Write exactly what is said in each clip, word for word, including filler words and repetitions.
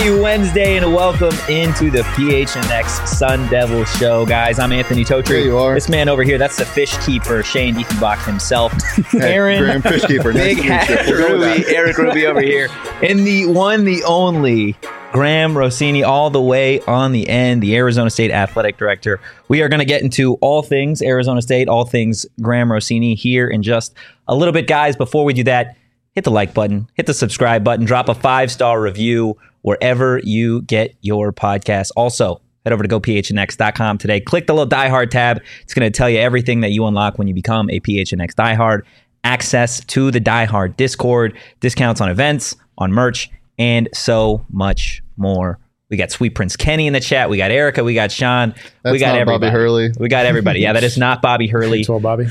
Happy Wednesday and welcome into the P H N X Sun Devil Show, guys. I'm Anthony Totri. There you are. This man over here, that's the fish keeper, Shane Diefenbach himself. Hey, Aaron, Graham, fish keeper. Big Nice hat, we'll Ruby, Eric Ruby over here. And the one, the only, Graham Rossini, all the way on the end, the Arizona State Athletic Director. We are going to get into all things Arizona State, all things Graham Rossini here in just a little bit, guys. Before we do that, hit the like button, hit the subscribe button, drop a five-star review wherever you get your podcast. Also, head over to go P H N X dot com today. Click the little Die Hard tab. It's going to tell you everything that you unlock when you become a P H N X Die Hard. Access to the Die Hard Discord, discounts on events, on merch, and so much more. We got Sweet Prince Kenny in the chat. We got Erica. We got Sean. That's we got not everybody. Bobby Hurley. We got everybody. Yeah, that is not Bobby Hurley. Well, Bobby.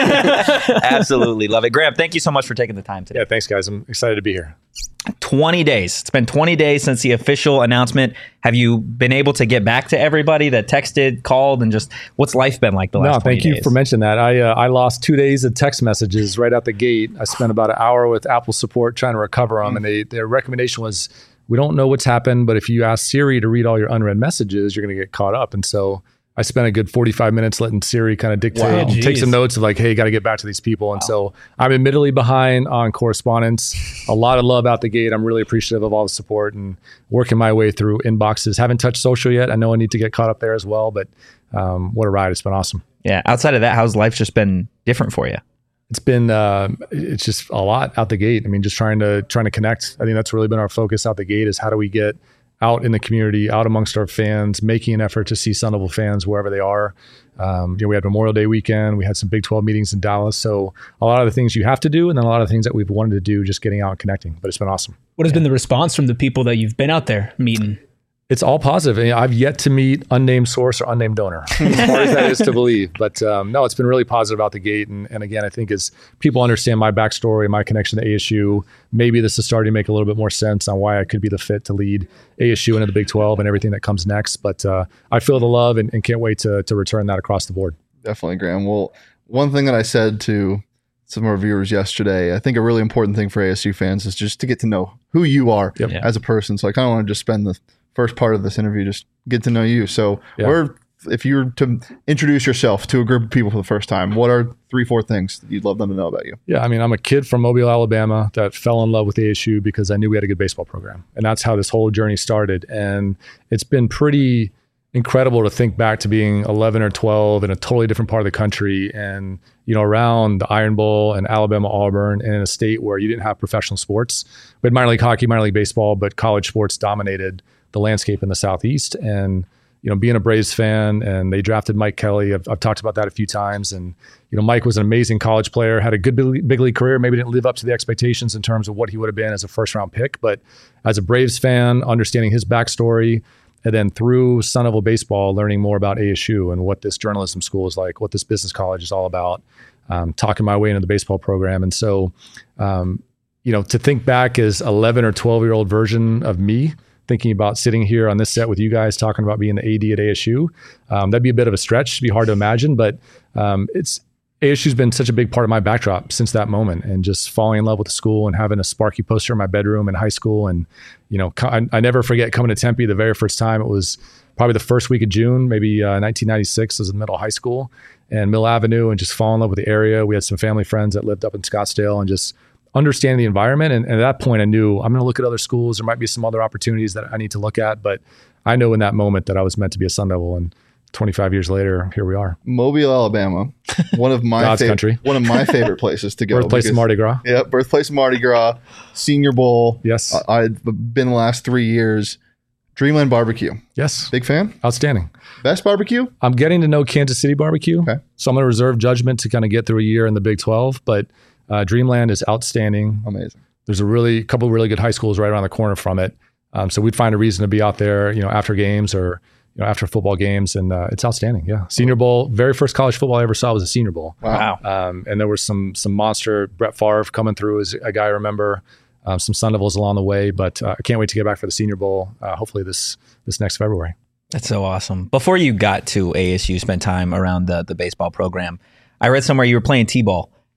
Absolutely love it. Graham, thank you so much for taking the time today. Yeah, thanks, guys. I'm excited to be here. twenty days. It's been twenty days since the official announcement. Have you been able to get back to everybody that texted, called, and just what's life been like the last No, twenty thank you days? for mentioning that. I uh, I lost two days of text messages right out the gate. I spent about an hour with Apple support trying to recover them, mm. and they, their recommendation was, we don't know what's happened, but if you ask Siri to read all your unread messages, you're going to get caught up. And so I spent a good forty-five minutes letting Siri kind of dictate, Wow. and take some notes of like, hey, got to get back to these people. And Wow. so I'm admittedly behind on correspondence. A lot of love out the gate. I'm really appreciative of all the support and working my way through inboxes. Haven't touched social yet. I know I need to get caught up there as well, but um, what a ride. It's been awesome. Yeah. Outside of that, how's life just been different for you? It's been, uh, it's just a lot out the gate. I mean, just trying to, trying to connect. I think that's really been our focus out the gate, is how do we get out in the community, out amongst our fans, making an effort to see Sun Devil fans wherever they are. Um, you know, we had Memorial Day weekend. We had some Big twelve meetings in Dallas. So a lot of the things you have to do, and then a lot of the things that we've wanted to do, just getting out and connecting. But it's been awesome. What has yeah. been the response from the people that you've been out there meeting? It's all positive. And I've yet to meet unnamed source or unnamed donor, as hard as that is to believe. But um, no, it's been really positive out the gate. And, and again, I think as people understand my backstory, my connection to A S U, maybe this is starting to make a little bit more sense on why I could be the fit to lead A S U into the Big twelve and everything that comes next. But uh, I feel the love and, and can't wait to to return that across the board. Definitely, Graham. Well, one thing that I said to some of our viewers yesterday, I think a really important thing for A S U fans is just to get to know who you are Yep. Yeah. as a person. So I kind of want to just spend the first part of this interview just get to know you. So Yeah. or if you were to introduce yourself to a group of people for the first time, what are three, four things that you'd love them to know about you? Yeah, I mean, I'm a kid from Mobile, Alabama that fell in love with A S U because I knew we had a good baseball program. And that's how this whole journey started. And it's been pretty incredible to think back to being eleven or twelve in a totally different part of the country and, you know, around the Iron Bowl and Alabama, Auburn, and in a state where you didn't have professional sports. We had minor league hockey, minor league baseball, but college sports dominated the landscape in the Southeast. And, you know, being a Braves fan, and they drafted Mike Kelly. I've, I've talked about that a few times. And, you know, Mike was an amazing college player, had a good big, big league career, maybe didn't live up to the expectations in terms of what he would have been as a first round pick. But as a Braves fan, understanding his backstory, and then through Sun Devil baseball, learning more about A S U and what this journalism school is like, what this business college is all about, um, talking my way into the baseball program. And so, um, you know, to think back as eleven or twelve year old version of me, thinking about sitting here on this set with you guys talking about being the A D at A S U, um, that'd be a bit of a stretch. It'd be hard to imagine, but um, it's A S U's been such a big part of my backdrop since that moment, and just falling in love with the school and having a Sparky poster in my bedroom in high school. And, you know, I, I never forget coming to Tempe the very first time. It was probably the first week of June, maybe uh, nineteen ninety-six. I was in middle high school, and Mill Avenue, and just fall in love with the area. We had some family friends that lived up in Scottsdale, and just understanding the environment. And, and at that point I knew I'm going to look at other schools. There might be some other opportunities that I need to look at, but I know in that moment that I was meant to be a Sun Devil. And twenty-five years later, here we are. Mobile, Alabama, one of my God's fav- country. one of my favorite places to go. Birthplace because, of Mardi Gras. Yeah, birthplace of Mardi Gras, Senior Bowl. Yes. I, I've been the last three years. Dreamland Barbecue. Yes. Big fan. Outstanding. Best barbecue. I'm getting to know Kansas City barbecue. Okay. So I'm going to reserve judgment to kind of get through a year in the Big twelve, but uh, Dreamland is outstanding. Amazing. There's a really couple really good high schools right around the corner from it. Um, so we'd find a reason to be out there, you know, after games or, you know, after football games. And uh, it's outstanding. Yeah. Senior Bowl, very first college football I ever saw was a Senior Bowl. Wow. Um, and there was some, some monster Brett Favre coming through as a guy I remember, um, some Sun Devils along the way, but uh, I can't wait to get back for the Senior Bowl. Uh, hopefully this, this next February. That's so awesome. Before you got to A S U, spent time around the, the baseball program. I read somewhere you were playing T-ball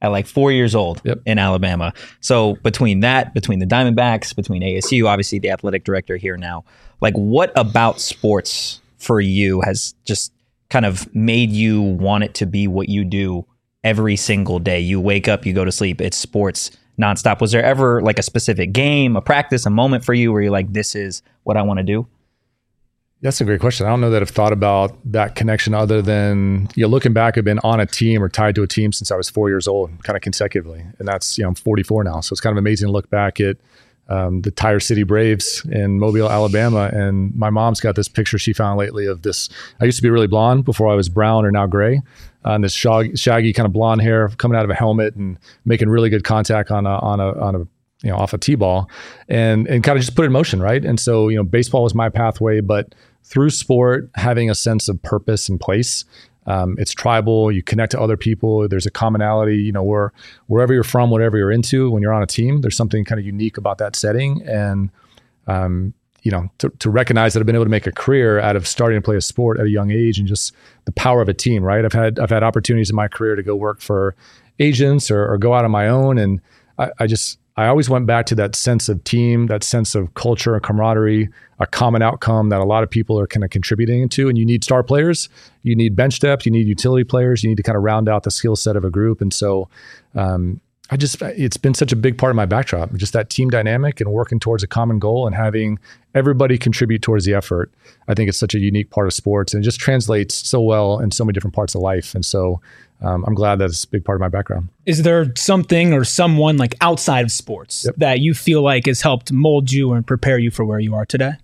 at like four years old Yep. in Alabama. So between that, between the Diamondbacks, between A S U, obviously the athletic director here now, like what about sports for you has just kind of made you want it to be what you do every single day? You wake up, you go to sleep, it's sports nonstop. Was there ever like a specific game, a practice, a moment for you where you're like, this is what I want to do? That's a great question. I don't know that I've thought about that connection other than, you know, looking back, I've been on a team or tied to a team since I was four years old, kind of consecutively. And that's, you know, I'm forty-four now. So it's kind of amazing to look back at um, the Tire City Braves in Mobile, Alabama. And my mom's got this picture she found lately of this. I used to be really blonde before I was brown or now gray. Uh, and this shag, shaggy kind of blonde hair coming out of a helmet and making really good contact on a, on a, on a, you know, off a T-ball and, and kind of just put it in motion. Right. And so, you know, baseball was my pathway, but through sport, having a sense of purpose and place, um, it's tribal. You connect to other people. There's a commonality. You know, where wherever you're from, whatever you're into, when you're on a team, there's something kind of unique about that setting. And um, you know, to, to recognize that I've been able to make a career out of starting to play a sport at a young age, and just the power of a team. Right? I've had I've had opportunities in my career to go work for agents or, or go out on my own, and I, I just. I always went back to that sense of team, that sense of culture and camaraderie, a common outcome that a lot of people are kind of contributing to. And you need star players, you need bench depth, you need utility players, you need to kind of round out the skill set of a group. And so um, I just, it's been such a big part of my backdrop, just that team dynamic and working towards a common goal and having everybody contribute towards the effort. I think it's such a unique part of sports, and it just translates so well in so many different parts of life. And so Um, I'm glad that it's a big part of my background. Is there something or someone like outside of sports Yep. that you feel like has helped mold you and prepare you for where you are today?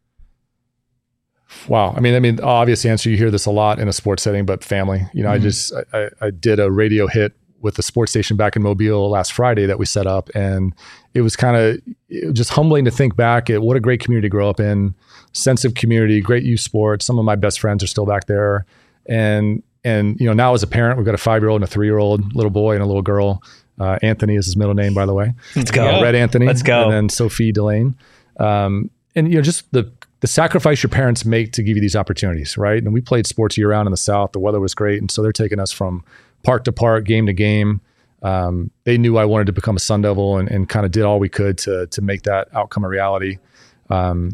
Wow. I mean, I mean, obvious answer, you hear this a lot in a sports setting, but family. You know, mm-hmm. I just, I, I did a radio hit with the sports station back in Mobile last Friday that we set up. And it was kind of just humbling to think back at what a great community to grow up in, sense of community, great youth sports. Some of my best friends are still back there. And And, you know, now as a parent, we've got a five-year-old and a three-year-old little boy and a little girl. Uh, Anthony is his middle name, by the way. Let's go. Uh, Red Anthony. Let's go. And then Sophie Delane. Um, and, you know, just the the sacrifice your parents make to give you these opportunities, right? And we played sports year-round in the South. The weather was great. And so they're taking us from park to park, game to game. Um, they knew I wanted to become a Sun Devil and, and kind of did all we could to to make that outcome a reality. Um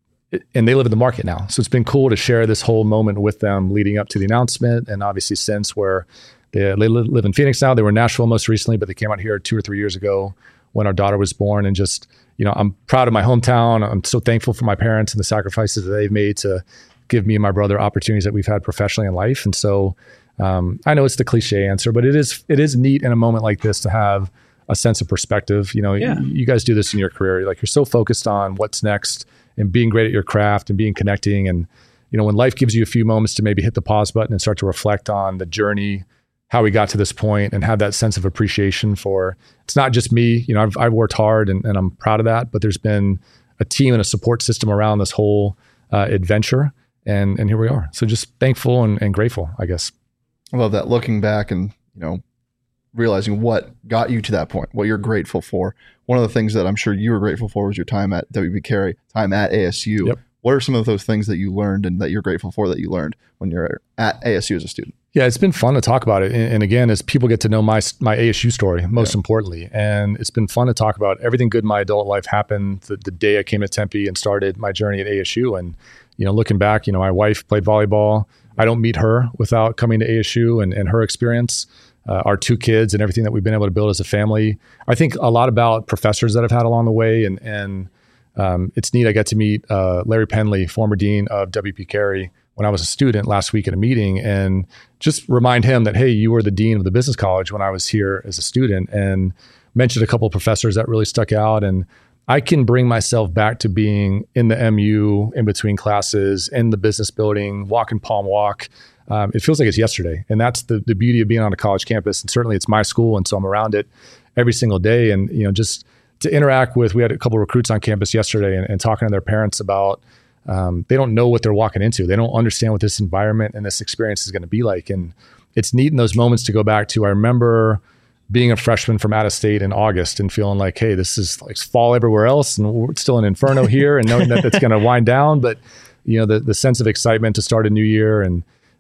And they live in the market now. So it's been cool to share this whole moment with them leading up to the announcement. And obviously since where they, they live in Phoenix now, they were in Nashville most recently, but they came out here two or three years ago when our daughter was born. And just, you know, I'm proud of my hometown. I'm so thankful for my parents and the sacrifices that they've made to give me and my brother opportunities that we've had professionally in life. And so um, I know it's the cliche answer, but it is, it is neat in a moment like this to have a sense of perspective. You know, Yeah. you, you guys do this in your career. Like you're so focused on what's next and being great at your craft and being connecting. And, you know, when life gives you a few moments to maybe hit the pause button and start to reflect on the journey, how we got to this point, and have that sense of appreciation for, it's not just me, you know, I've, I've worked hard and, and I'm proud of that, but there's been a team and a support system around this whole uh, adventure. And, and here we are. So just thankful and, and grateful, I guess. I love that, looking back and, you know, realizing what got you to that point, what you're grateful for. One of the things that I'm sure you were grateful for was your time at W P Carey, time at A S U. Yep. What are some of those things that you learned and that you're grateful for that you learned when you're at A S U as a student? Yeah, it's been fun to talk about it. And, and again, as people get to know my my A S U story, most yeah. importantly, and it's been fun to talk about everything good in my adult life happened the, the day I came to Tempe and started my journey at A S U. And, you know, looking back, you know, my wife played volleyball. I don't meet her without coming to A S U and, and her experience. Uh, our two kids and everything that we've been able to build as a family. I think a lot about professors that I've had along the way. And, and um, it's neat. I got to meet uh, Larry Penley, former dean of W P Carey, when I was a student last week at a meeting, and just remind him that, hey, you were the dean of the business college when I was here as a student, and mentioned a couple of professors that really stuck out. And I can bring myself back to being in the M U, in between classes, in the business building, walking Palm Walk. Um, it feels like it's yesterday. And that's the the beauty of being on a college campus. And certainly it's my school. And so I'm around it every single day. And, you know, just to interact with, we had a couple of recruits on campus yesterday and, and talking to their parents about, um, they don't know what they're walking into. They don't understand what this environment and this experience is going to be like. And it's neat in those moments to go back to, I remember being a freshman from out of state in August and feeling like, hey, this is like fall everywhere else. And we're still in inferno here, and knowing that it's going to wind down. But, you know, the, the sense of excitement to start a new year and,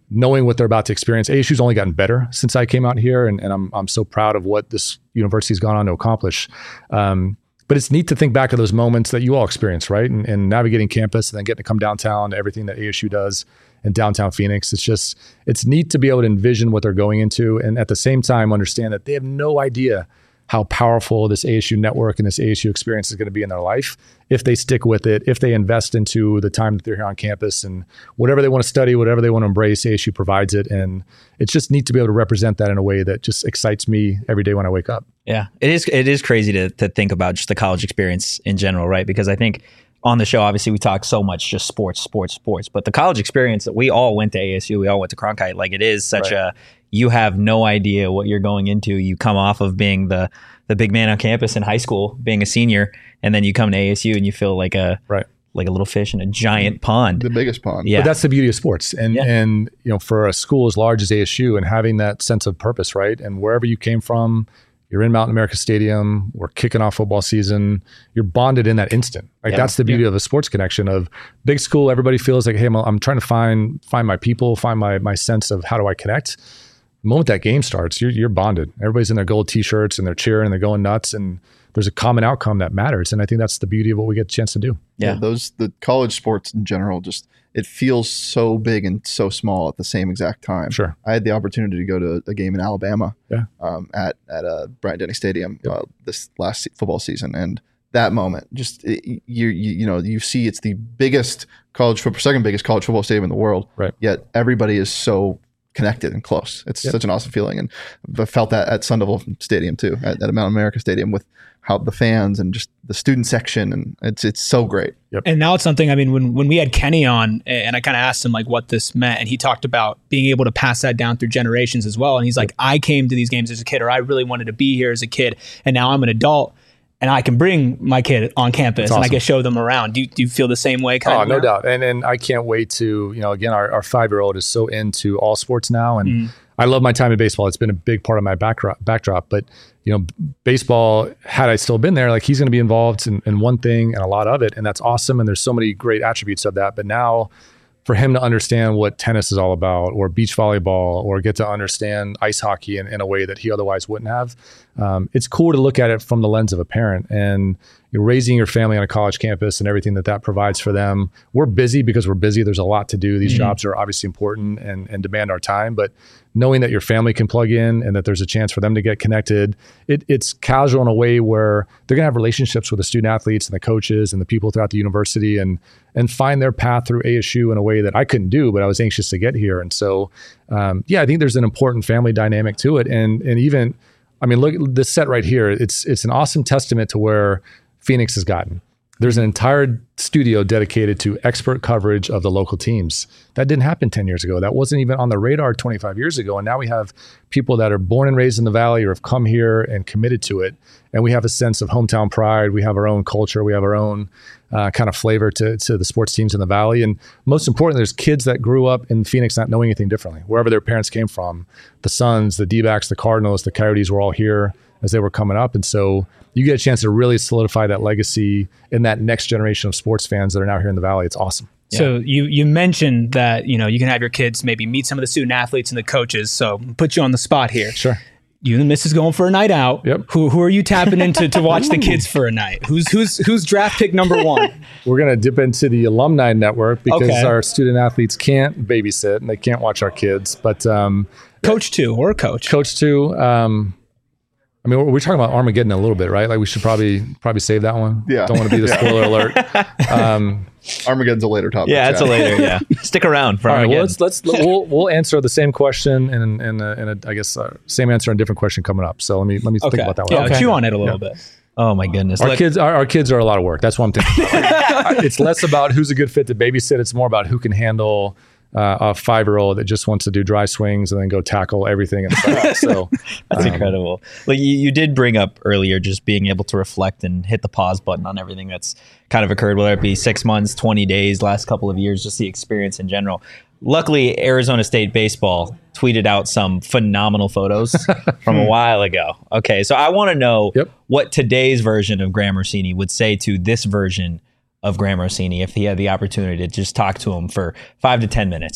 knowing what they're about to experience. A S U's only gotten better since I came out here, and, and I'm I'm so proud of what this university's gone on to accomplish. Um, but it's neat to think back to those moments that you all experience, right? And, and navigating campus and then getting to come downtown to everything that A S U does in downtown Phoenix. It's just, it's neat to be able to envision what they're going into, and at the same time understand that they have no idea how powerful this A S U network and this A S U experience is going to be in their life if they stick with it, if they invest into the time that they're here on campus, and whatever they want to study, whatever they want to embrace, A S U provides it. And it's just neat to be able to represent that in a way that just excites me every day when I wake up. Yeah, it is. It is crazy to to think about just the college experience in general, right? Because I think on the show, obviously, we talk so much just sports, sports, sports, but the college experience that we all went to A S U, we all went to Cronkite. Like, it is such right. a, you have no idea what you're going into. You come off of being the the big man on campus in high school, being a senior, and then you come to A S U and you feel like a right. like a little fish in a giant pond. The biggest pond. Yeah. But that's the beauty of sports. And, yeah. and you know, for a school as large as A S U and having that sense of purpose, right? And wherever you came from, you're in Mountain America Stadium, we're kicking off football season, you're bonded in that instant. Like, yeah. that's the beauty yeah. of a sports connection. Of big school, everybody feels like, hey, I'm, I'm trying to find find my people, find my my sense of how do I connect. The moment that game starts, you're, you're bonded. Everybody's in their gold t-shirts and they're cheering and they're going nuts, and there's a common outcome that matters. And I think that's the beauty of what we get a chance to do. Yeah, yeah those the college sports in general, just it feels so big and so small at the same exact time. Sure. I had the opportunity to go to a game in Alabama yeah. um, at at uh, Bryant Denny Stadium yep. uh, this last se- football season, and that moment, just it, you, you you know you see it's the biggest college football, second biggest college football stadium in the world. Right. Yet everybody is so connected and close. It's yep. such an awesome feeling, and I felt that at Sun Devil Stadium too, at, at Mountain America Stadium, with how the fans and just the student section, and it's it's so great. Yep. And now it's something, I mean, when when we had Kenny on, and I kind of asked him like what this meant, and he talked about being able to pass that down through generations as well. And he's like, I came to these games as a kid, or I really wanted to be here as a kid, and now I'm an adult, and I can bring my kid on campus awesome. and I can show them around. Do you, do you feel the same way? Kind oh, of no now? doubt. And and I can't wait to, you know, again, our, our five-year-old is so into all sports now. And mm. I love my time in baseball. It's been a big part of my backdrop. backdrop. But, you know, baseball, had I still been there, like, he's going to be involved in, in one thing and a lot of it. And that's awesome. And there's so many great attributes of that. But now, for him to understand what tennis is all about, or beach volleyball, or get to understand ice hockey in, in a way that he otherwise wouldn't have, um, it's cool to look at it from the lens of a parent. And you're raising your family on a college campus and everything that that provides for them. We're busy because we're busy. There's a lot to do. These mm-hmm. jobs are obviously important and, and demand our time, but knowing that your family can plug in and that there's a chance for them to get connected, it, it's casual in a way where they're going to have relationships with the student athletes and the coaches and the people throughout the university, and and find their path through A S U in a way that I couldn't do, but I was anxious to get here. And so, um, yeah, I think there's an important family dynamic to it. And and even, I mean, look at this set right here. It's it's an awesome testament to where Phoenix has gotten. There's an entire studio dedicated to expert coverage of the local teams. That didn't happen ten years ago. That wasn't even on the radar twenty-five years ago. And now we have people that are born and raised in the Valley or have come here and committed to it. And we have a sense of hometown pride. We have our own culture. We have our own uh, kind of flavor to, to the sports teams in the Valley. And most importantly, there's kids that grew up in Phoenix not knowing anything differently, wherever their parents came from. The Suns, the D-backs, the Cardinals, the Coyotes were all here as they were coming up. And so you get a chance to really solidify that legacy in that next generation of sports fans that are now here in the Valley. It's awesome. So yeah. you you mentioned that, you know, you can have your kids maybe meet some of the student athletes and the coaches. So put you on the spot here. Sure. You and the missus going for a night out. Yep. Who who are you tapping into to watch the kids for a night? Who's who's who's draft pick number one? We're gonna dip into the alumni network because Okay. our student athletes can't babysit and they can't watch our kids. But um, Coach two or coach? Coach two. Um, I mean, we're, we're talking about Armageddon a little bit, right? Like, we should probably probably save that one. Yeah. Don't want to be the spoiler alert. Um, Armageddon's a later topic. Yeah, it's a later. Yeah, stick around for all right. Well, Armageddon. let's let's we'll we'll answer the same question and and a, and a, I guess uh, same answer and different question coming up. So let me let me Okay. think about that Yeah, one. chew on it a little bit. Oh my goodness. Our Look, kids, our, our kids are a lot of work. That's what I'm thinking about. It's less about who's a good fit to babysit. It's more about who can handle uh, a five-year-old that just wants to do dry swings and then go tackle everything inside. So That's um, incredible. Like, you, you did bring up earlier, just being able to reflect and hit the pause button on everything that's kind of occurred, whether it be six months, twenty days, last couple of years, just the experience in general. Luckily, Arizona State baseball tweeted out some phenomenal photos from a while ago. Okay, so I want to know Yep. what today's version of Graham Rossini would say to this version of Graham Rossini if he had the opportunity to just talk to him for five to ten minutes.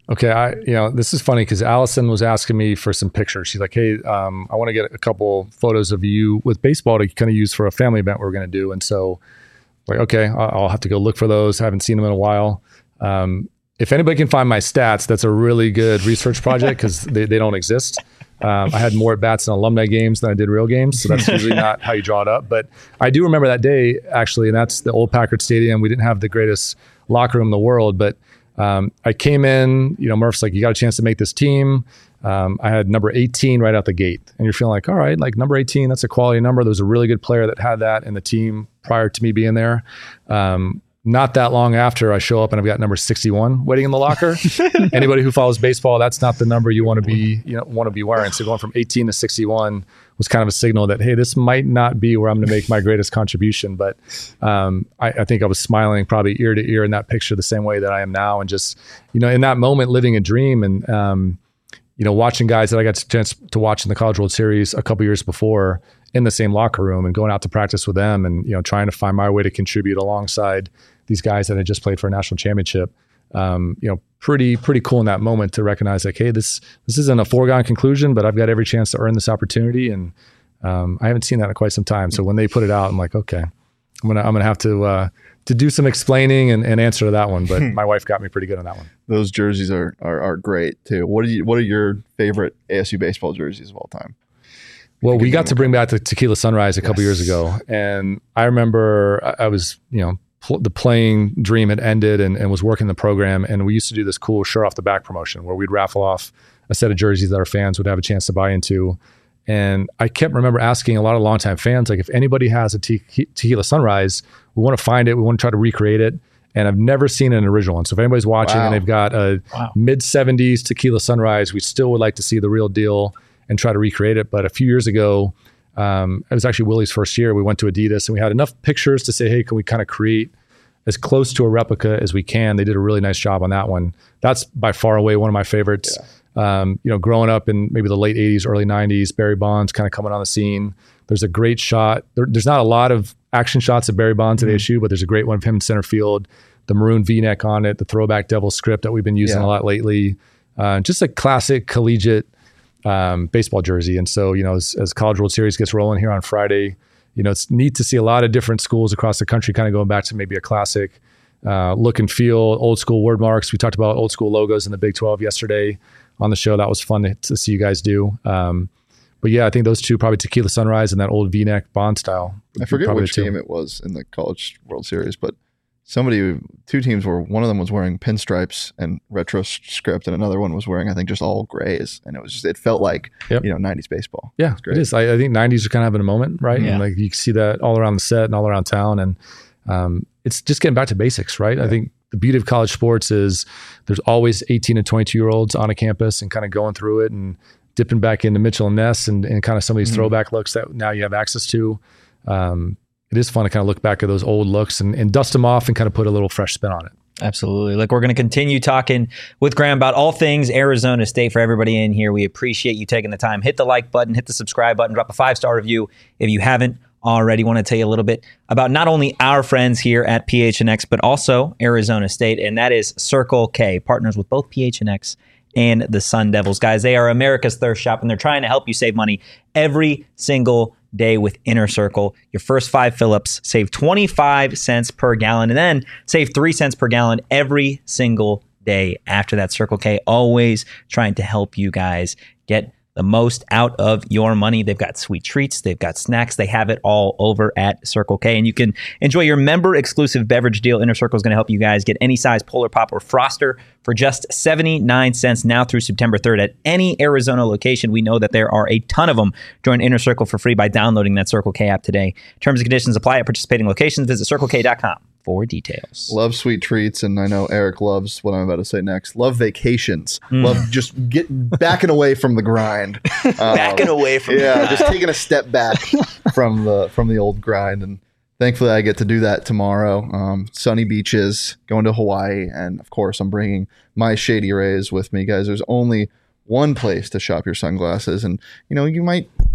Okay, I you know this is funny because Allison was asking me for some pictures. She's like, "Hey, um, I want to get a couple photos of you with baseball to kind of use for a family event we're going to do." And so, like, okay, I'll have to go look for those. I haven't seen them in a while. Um, if anybody can find my stats, that's a really good research project because they, they don't exist. Um, I had more at bats in alumni games than I did real games, so that's usually not how you draw it up. But I do remember that day actually, and that's the old Packard Stadium. We didn't have the greatest locker room in the world, but Um, I came in, you know, Murph's like, you got a chance to make this team. Um, I had number eighteen right out the gate. And you're feeling like, all right, like number eighteen, that's a quality number. There was a really good player that had that in the team prior to me being there. Um, not that long after I show up and I've got number sixty-one waiting in the locker. Anybody who follows baseball, that's not the number you want to be, you know, want to be wearing. So going from eighteen to sixty-one was kind of a signal that, hey, this might not be where I'm going to make my greatest contribution. But um, I, I think I was smiling probably ear to ear in that picture the same way that I am now. And just, you know, in that moment, living a dream and, um, you know, watching guys that I got a chance to watch in the College World Series a couple years before in the same locker room and going out to practice with them and, you know, trying to find my way to contribute alongside these guys that had just played for a national championship. Um, you know, pretty, pretty cool in that moment to recognize like, hey, this, this isn't a foregone conclusion, but I've got every chance to earn this opportunity. And um, I haven't seen that in quite some time. So when they put it out, I'm like, okay, I'm going to, I'm going to have to, uh, to do some explaining and, and answer to that one. But my wife got me pretty good on that one. Those jerseys are, are, are great too. What do you, what are your favorite A S U baseball jerseys of all time? Well, we got to bring back the Tequila Sunrise a couple yes. years ago. And I remember I, I was, you know, the playing dream had ended and, and was working the program. And we used to do this cool shirt off the back promotion where we'd raffle off a set of jerseys that our fans would have a chance to buy into. And I kept remember asking a lot of longtime fans, like if anybody has a te- Tequila Sunrise, we want to find it. We want to try to recreate it. And I've never seen an original one. So if anybody's watching wow. and they've got a wow. mid seventies Tequila Sunrise, we still would like to see the real deal and try to recreate it. But a few years ago, Um, it was actually Willie's first year. We went to Adidas and we had enough pictures to say, hey, can we kind of create as close to a replica as we can? They did a really nice job on that one. That's by far away one of my favorites. Yeah. Um, you know, growing up in maybe the late eighties, early nineties, Barry Bonds kind of coming on the scene. There's a great shot. There, there's not a lot of action shots of Barry Bonds mm-hmm. at A S U, but there's a great one of him in center field, the maroon V-neck on it, the throwback devil script that we've been using yeah. a lot lately. Uh, just a classic collegiate Um, baseball jersey. And so, you know, as, as College World Series gets rolling here on Friday, you know, it's neat to see a lot of different schools across the country kind of going back to maybe a classic uh, look and feel, old school word marks. We talked about old school logos in the Big twelve yesterday on the show. That was fun to, to see you guys do. Um, but yeah, I think those two, probably Tequila Sunrise and that old V-neck Bond style. I forget which game it was in the College World Series, but somebody, two teams were, one of them was wearing pinstripes and retro script, and another one was wearing, I think, just all grays. And it was just, it felt like, yep. you know, nineties baseball. Yeah, it is. I, I think nineties are kind of having a moment, right? Yeah. And like you can see that all around the set and all around town. And um, it's just getting back to basics, right? Yeah. I think the beauty of college sports is there's always eighteen and twenty-two year olds on a campus and kind of going through it and dipping back into Mitchell and Ness and, and kind of some of these mm-hmm. throwback looks that now you have access to. Um, It is fun to kind of look back at those old looks and, and dust them off and kind of put a little fresh spin on it. Absolutely. Look, we're going to continue talking with Graham about all things Arizona State for everybody in here. We appreciate you taking the time. Hit the like button, hit the subscribe button, drop a five-star review if you haven't already. Want to tell you a little bit about not only our friends here at P H N X, but also Arizona State, and that is Circle K, partners with both P H N X and the Sun Devils. Guys, they are America's thirst shop, and they're trying to help you save money every single day with Inner Circle. Your first five fill-ups save twenty-five cents per gallon, and then save three cents per gallon every single day after that. Circle K always trying to help you guys get the most out of your money. They've got sweet treats, they've got snacks, they have it all over at Circle K, and you can enjoy your member exclusive beverage deal. Inner Circle is going to help you guys get any size Polar Pop or Froster for just seventy-nine cents now through September third at any Arizona location. We know that there are a ton of them. Join Inner Circle for free by downloading that Circle K app today. Terms and conditions apply at participating locations. Visit circle k dot com for details. Love sweet treats, and I know Eric loves what I'm about to say next. Love vacations. Mm. Love just get backing away from the grind. Um, backing away from yeah, the grind. just taking a step back from the from the old grind, and thankfully I get to do that tomorrow. Um, sunny beaches, going to Hawaii, and of course I'm bringing my Shady Rays with me, guys. There's only one place to shop your sunglasses, and you know you might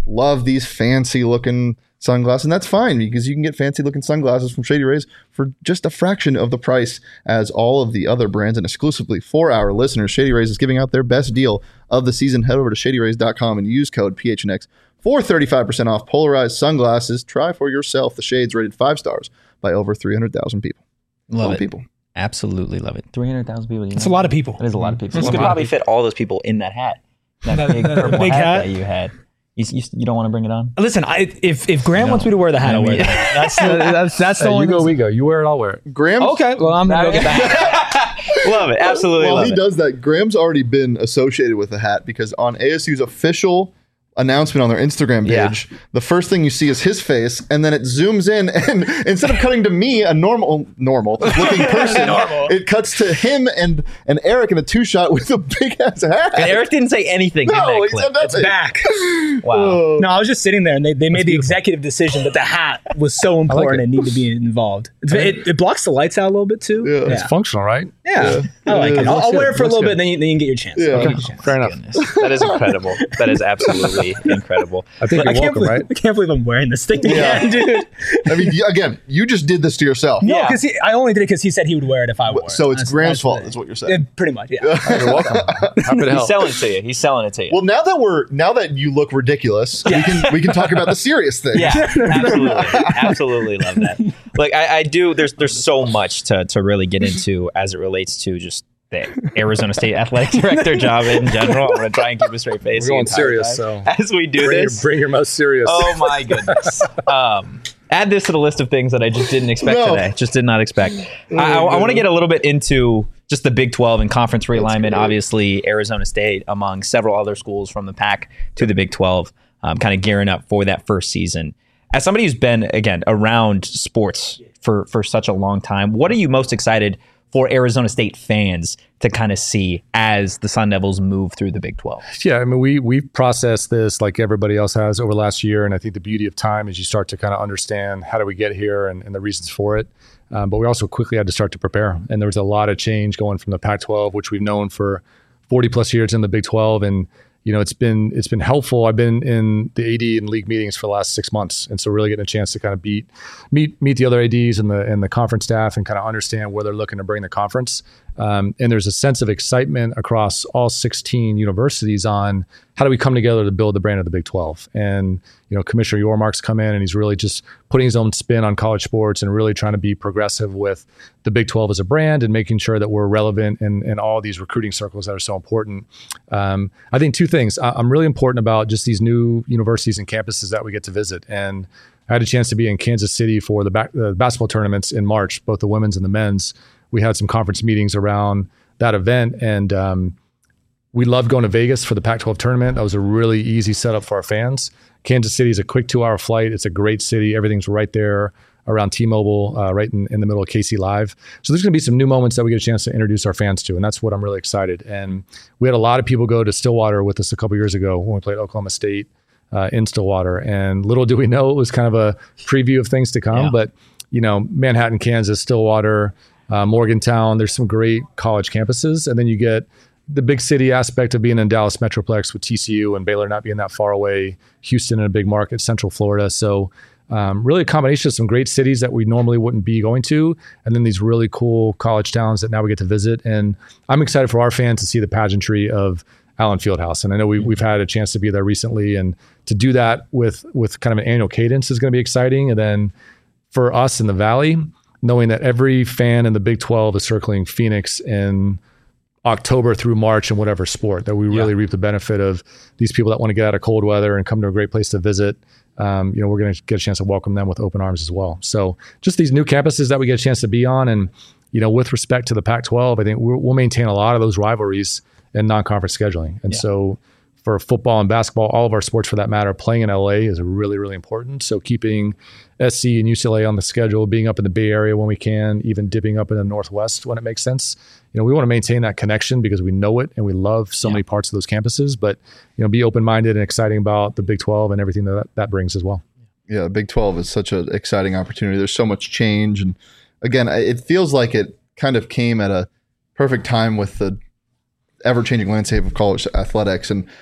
love these fancy looking sunglasses, and that's fine because you can get fancy looking sunglasses from Shady Rays for just a fraction of the price as all of the other brands. And exclusively for our listeners, Shady Rays is giving out their best deal of the season. Head over to shady rays dot com and use code P H N X for thirty-five percent off polarized sunglasses. Try for yourself the shades rated five stars by over three hundred thousand people. Love it. People. Absolutely love it. three hundred thousand people. That's a lot of people. That is a lot of people. That's You a could lot of probably fit all those people in that hat. That big purple big hat, hat? that you had. You, you, you don't want to bring it on? Listen, I, if if Graham No. wants me to wear the hat, I'll wear the hat. That's the, that's that's the Hey, only you go, reason. we go. You wear it, I'll wear it. Graham. Okay, well I'm gonna go get the hat. Love it. Absolutely While love he it. does that, Graham's already been associated with the hat because on A S U's official announcement on their Instagram page, Yeah. the first thing you see is his face, and then it zooms in, and instead of cutting to me, a normal, normal looking person, Normal. it cuts to him and and Eric in a two shot with a big ass hat. And Eric didn't say anything in no, that he clip. said nothing. Back. Wow. Oh. No, I was just sitting there, and they, they made the executive decision that the hat was so important it. and needed to be involved. It's, it, it blocks the lights out a little bit too. Yeah. It's functional, right? Yeah, I like Yeah, it. I'll, looks I'll wear good. it for a Looks little good. bit, then you, then you can get your chance. Yeah. Then you Okay. get your chance. Fair enough. Goodness. That is incredible. That is absolutely incredible. I think I you're can't, welcome, believe, right? I can't believe I'm wearing this thing again, dude. I mean, y- again, you just did this to yourself. No, Yeah. because I only did it because he said he would wear it if I wore it. So it's That's- Graham's that's fault, the- is what you're saying. Yeah, pretty much, yeah. You're welcome. Happy to He's help. selling it to you. He's selling it to you. Well, now that we're now that you look ridiculous, we can we can talk about the serious thing. Yeah, absolutely, absolutely love that. Like I, I do. There's there's so much to to really get into as it relates to just the Arizona State athletic director job in general. I'm gonna try and keep a straight face. We're the going entire serious, time so as we do bring, your, this. bring your most serious. Oh my goodness. Um, add this to the list of things that I just didn't expect No. today. Just did not expect. I, I, I want to get a little bit into just the Big twelve and conference realignment. Obviously, Arizona State, among several other schools from the Pac to the Big twelve, um, kind of gearing up for that first season. As somebody who's been, again, around sports for, for such a long time, what are you most excited for Arizona State fans to kind of see as the Sun Devils move through the Big twelve? Yeah, I mean, we we've processed this like everybody else has over the last year, and I think the beauty of time is you start to kind of understand how do we get here and, and the reasons for it. Um, but we also quickly had to start to prepare, and there was a lot of change going from the Pac twelve, which we've known for forty plus years, in the Big twelve, and you know, it's been it's been helpful. I've been in the A D and league meetings for the last six months, and so really getting a chance to kind of beat meet meet the other A Ds and the and the conference staff and kind of understand where they're looking to bring the conference. Um, and there's a sense of excitement across all sixteen universities on how do we come together to build the brand of the Big twelve. And you know, Commissioner Yormark's come in and he's really just putting his own spin on college sports and really trying to be progressive with the Big twelve as a brand and making sure that we're relevant in, in all these recruiting circles that are so important. Um, I think two things. I, I'm really important about just these new universities and campuses that we get to visit. And I had a chance to be in Kansas City for the, back, the basketball tournaments in March, both the women's and the men's. We had some conference meetings around that event, and um, we loved going to Vegas for the Pac twelve tournament. That was a really easy setup for our fans. Kansas City is a quick two-hour flight. It's a great city. Everything's right there around T-Mobile, uh, right in, in the middle of K C Live. So there's going to be some new moments that we get a chance to introduce our fans to, and that's what I'm really excited. And we had a lot of people go to Stillwater with us a couple years ago when we played Oklahoma State uh, in Stillwater. And little do we know, it was kind of a preview of things to come. Yeah. But, you know, Manhattan, Kansas, Stillwater, uh, Morgantown, there's some great college campuses. And then you get the big city aspect of being in Dallas Metroplex with T C U and Baylor not being that far away, Houston in a big market, Central Florida. So um, really a combination of some great cities that we normally wouldn't be going to, and then these really cool college towns that now we get to visit. And I'm excited for our fans to see the pageantry of Allen Fieldhouse. And I know we, we've had a chance to be there recently, and to do that with, with kind of an annual cadence is going to be exciting. And then for us in the Valley, knowing that every fan in the Big twelve is circling Phoenix in October through March in whatever sport, that we really Yeah. reap the benefit of these people that want to get out of cold weather and come to a great place to visit. Um, you know, we're going to get a chance to welcome them with open arms as well. So just these new campuses that we get a chance to be on. And, you know, with respect to the Pac twelve, I think we'll, we'll maintain a lot of those rivalries in non-conference scheduling. And Yeah. so for football and basketball, all of our sports for that matter, playing in L A is really, really important. So keeping S C and U C L A on the schedule, being up in the Bay Area when we can, even dipping up in the Northwest when it makes sense. You know, we want to maintain that connection because we know it and we love so Yeah. many parts of those campuses, but, you know, be open-minded and exciting about the Big twelve and everything that that brings as well. Yeah, the Big twelve is such an exciting opportunity. There's so much change. And again, I- it feels like it kind of came at a perfect time with the ever-changing landscape of college athletics. And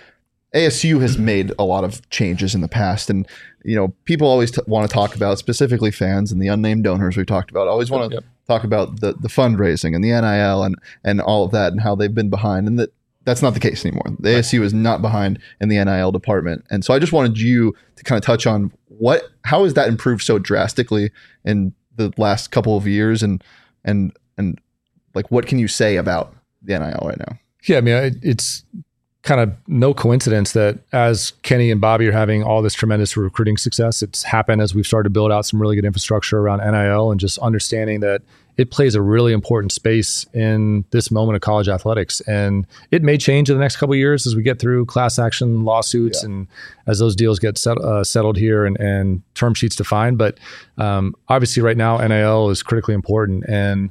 A S U has made a lot of changes in the past, and you know, people always t- want to talk about, specifically fans and the unnamed donors we've talked about, always want to yep. talk about the the fundraising and the N I L and and all of that and how they've been behind, and that that's not the case anymore. The right. A S U is not behind in the N I L department, and so I just wanted you to kind of touch on what how has that improved so drastically in the last couple of years, and and and like what can you say about the N I L right now? Yeah, I mean, it, it's kind of no coincidence that as Kenny and Bobby are having all this tremendous recruiting success, it's happened as we've started to build out some really good infrastructure around N I L and just understanding that it plays a really important space in this moment of college athletics. And it may change in the next couple of years as we get through class action lawsuits yeah. and as those deals get set, uh, settled here and, and term sheets defined. But um, obviously right now, N I L is critically important. And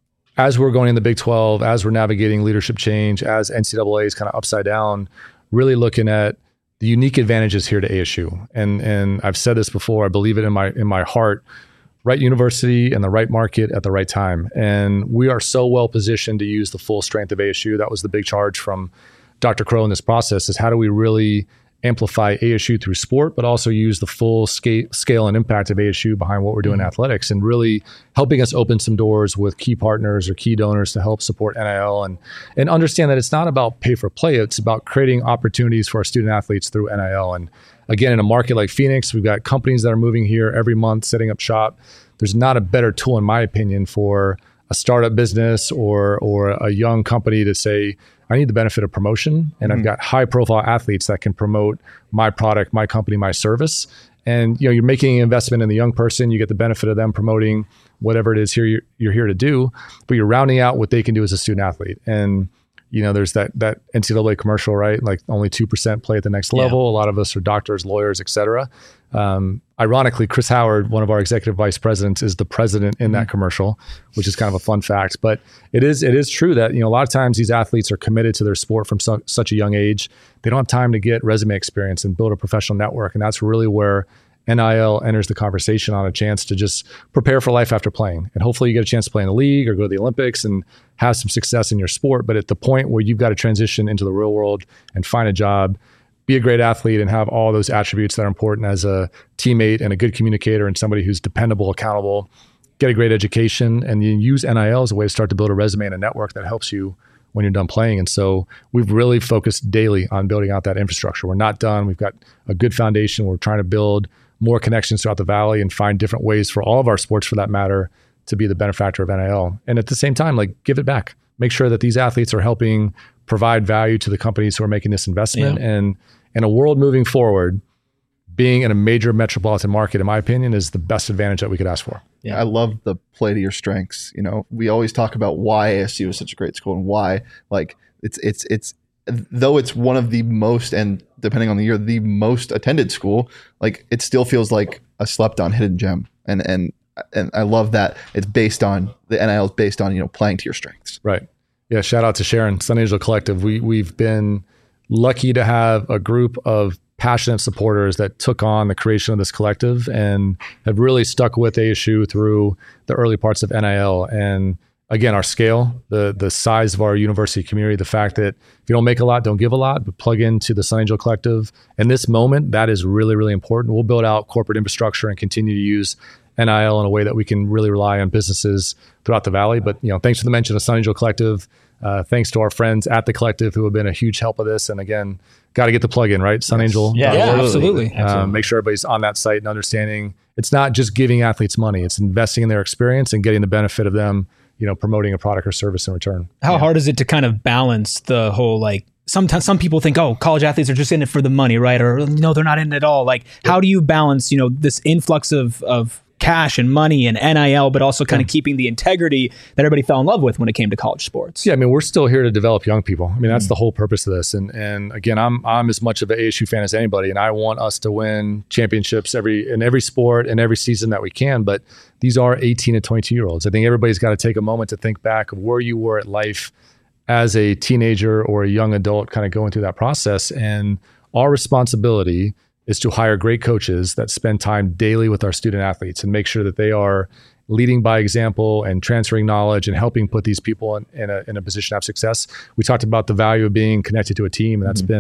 as we're going in the Big twelve, as we're navigating leadership change, as N C double A is kind of upside down, really looking at the unique advantages here to A S U. And and I've said this before, I believe it in my in my heart, right university and the right market at the right time. And we are so well positioned to use the full strength of A S U. That was the big charge from Doctor Crow in this process, is how do we really amplify A S U through sport, but also use the full scale, scale and impact of A S U behind what we're doing mm-hmm. in athletics, and really helping us open some doors with key partners or key donors to help support N I L and and understand that it's not about pay for play. It's about creating opportunities for our student athletes through N I L. And again, in a market like Phoenix, we've got companies that are moving here every month, setting up shop. There's not a better tool, in my opinion, for a startup business or or a young company to say, I need the benefit of promotion, and mm-hmm. I've got high profile athletes that can promote my product, my company, my service. And you know, you're making an investment in the young person, you get the benefit of them promoting whatever it is here you're, you're here to do, but you're rounding out what they can do as a student athlete. And you know, there's that that N C double A commercial, right? Like only two percent play at the next level. Yeah. A lot of us are doctors, lawyers, et cetera. Um, ironically, Chris Howard, one of our executive vice presidents, is the president in mm-hmm. that commercial, which is kind of a fun fact. But it is it is true that, you know, a lot of times these athletes are committed to their sport from su- such a young age. They don't have time to get resume experience and build a professional network. And that's really where N I L enters the conversation on a chance to just prepare for life after playing. And hopefully you get a chance to play in the league or go to the Olympics and have some success in your sport. But at the point where you've got to transition into the real world and find a job, be a great athlete and have all those attributes that are important as a teammate and a good communicator and somebody who's dependable, accountable, get a great education, and you use N I L as a way to start to build a resume and a network that helps you when you're done playing. And so we've really focused daily on building out that infrastructure. We're not done. We've got a good foundation. We're trying to build more connections throughout the Valley and find different ways for all of our sports, for that matter, to be the benefactor of N I L. And at the same time, like, give it back. Make sure that these athletes are helping provide value to the companies who are making this investment. Yeah. And in a world moving forward, being in a major metropolitan market, in my opinion, is the best advantage that we could ask for. Yeah, I love the play to your strengths. You know, we always talk about why A S U is such a great school and why, like, it's it's it's though it's one of the most, and depending on the year, the most attended school, like, it still feels like a slept on hidden gem. And and and I love that it's based on the N I L is based on, you know, playing to your strengths. Right. Yeah. Shout out to Sharon, Sun Angel Collective. We we've been lucky to have a group of passionate supporters that took on the creation of this collective and have really stuck with A S U through the early parts of N I L. And again, our scale, the the size of our university community, the fact that if you don't make a lot, don't give a lot, but plug into the Sun Angel Collective. In this moment, that is really, really important. We'll build out corporate infrastructure and continue to use N I L in a way that we can really rely on businesses throughout the Valley. But, you know, thanks for the mention of Sun Angel Collective. Uh, thanks to our friends at the Collective who have been a huge help of this. And again, got to get the plug in, right? Sun Angel. Yeah, yeah, absolutely. Um, absolutely. Make sure everybody's on that site and understanding it's not just giving athletes money. It's investing in their experience and getting the benefit of them, you know, promoting a product or service in return. How yeah. hard is it to kind of balance the whole, like, sometimes some people think, oh, college athletes are just in it for the money, right? Or no, they're not in it at all. Like, yeah. how do you balance, you know, this influx of, of cash and money and N I L, but also kind of yeah. keeping the integrity that everybody fell in love with when it came to college sports? Yeah, I mean, we're still here to develop young people. I mean, that's mm. the whole purpose of this. And and again, I'm I'm as much of an A S U fan as anybody, and I want us to win championships every in every sport and every season that we can. But these are eighteen to twenty-two year olds. I think everybody's got to take a moment to think back of where you were at life as a teenager or a young adult, kind of going through that process. And our responsibility is to hire great coaches that spend time daily with our student athletes and make sure that they are leading by example and transferring knowledge and helping put these people in, in, a, in a position to have success. We talked about the value of being connected to a team, and that's mm-hmm. been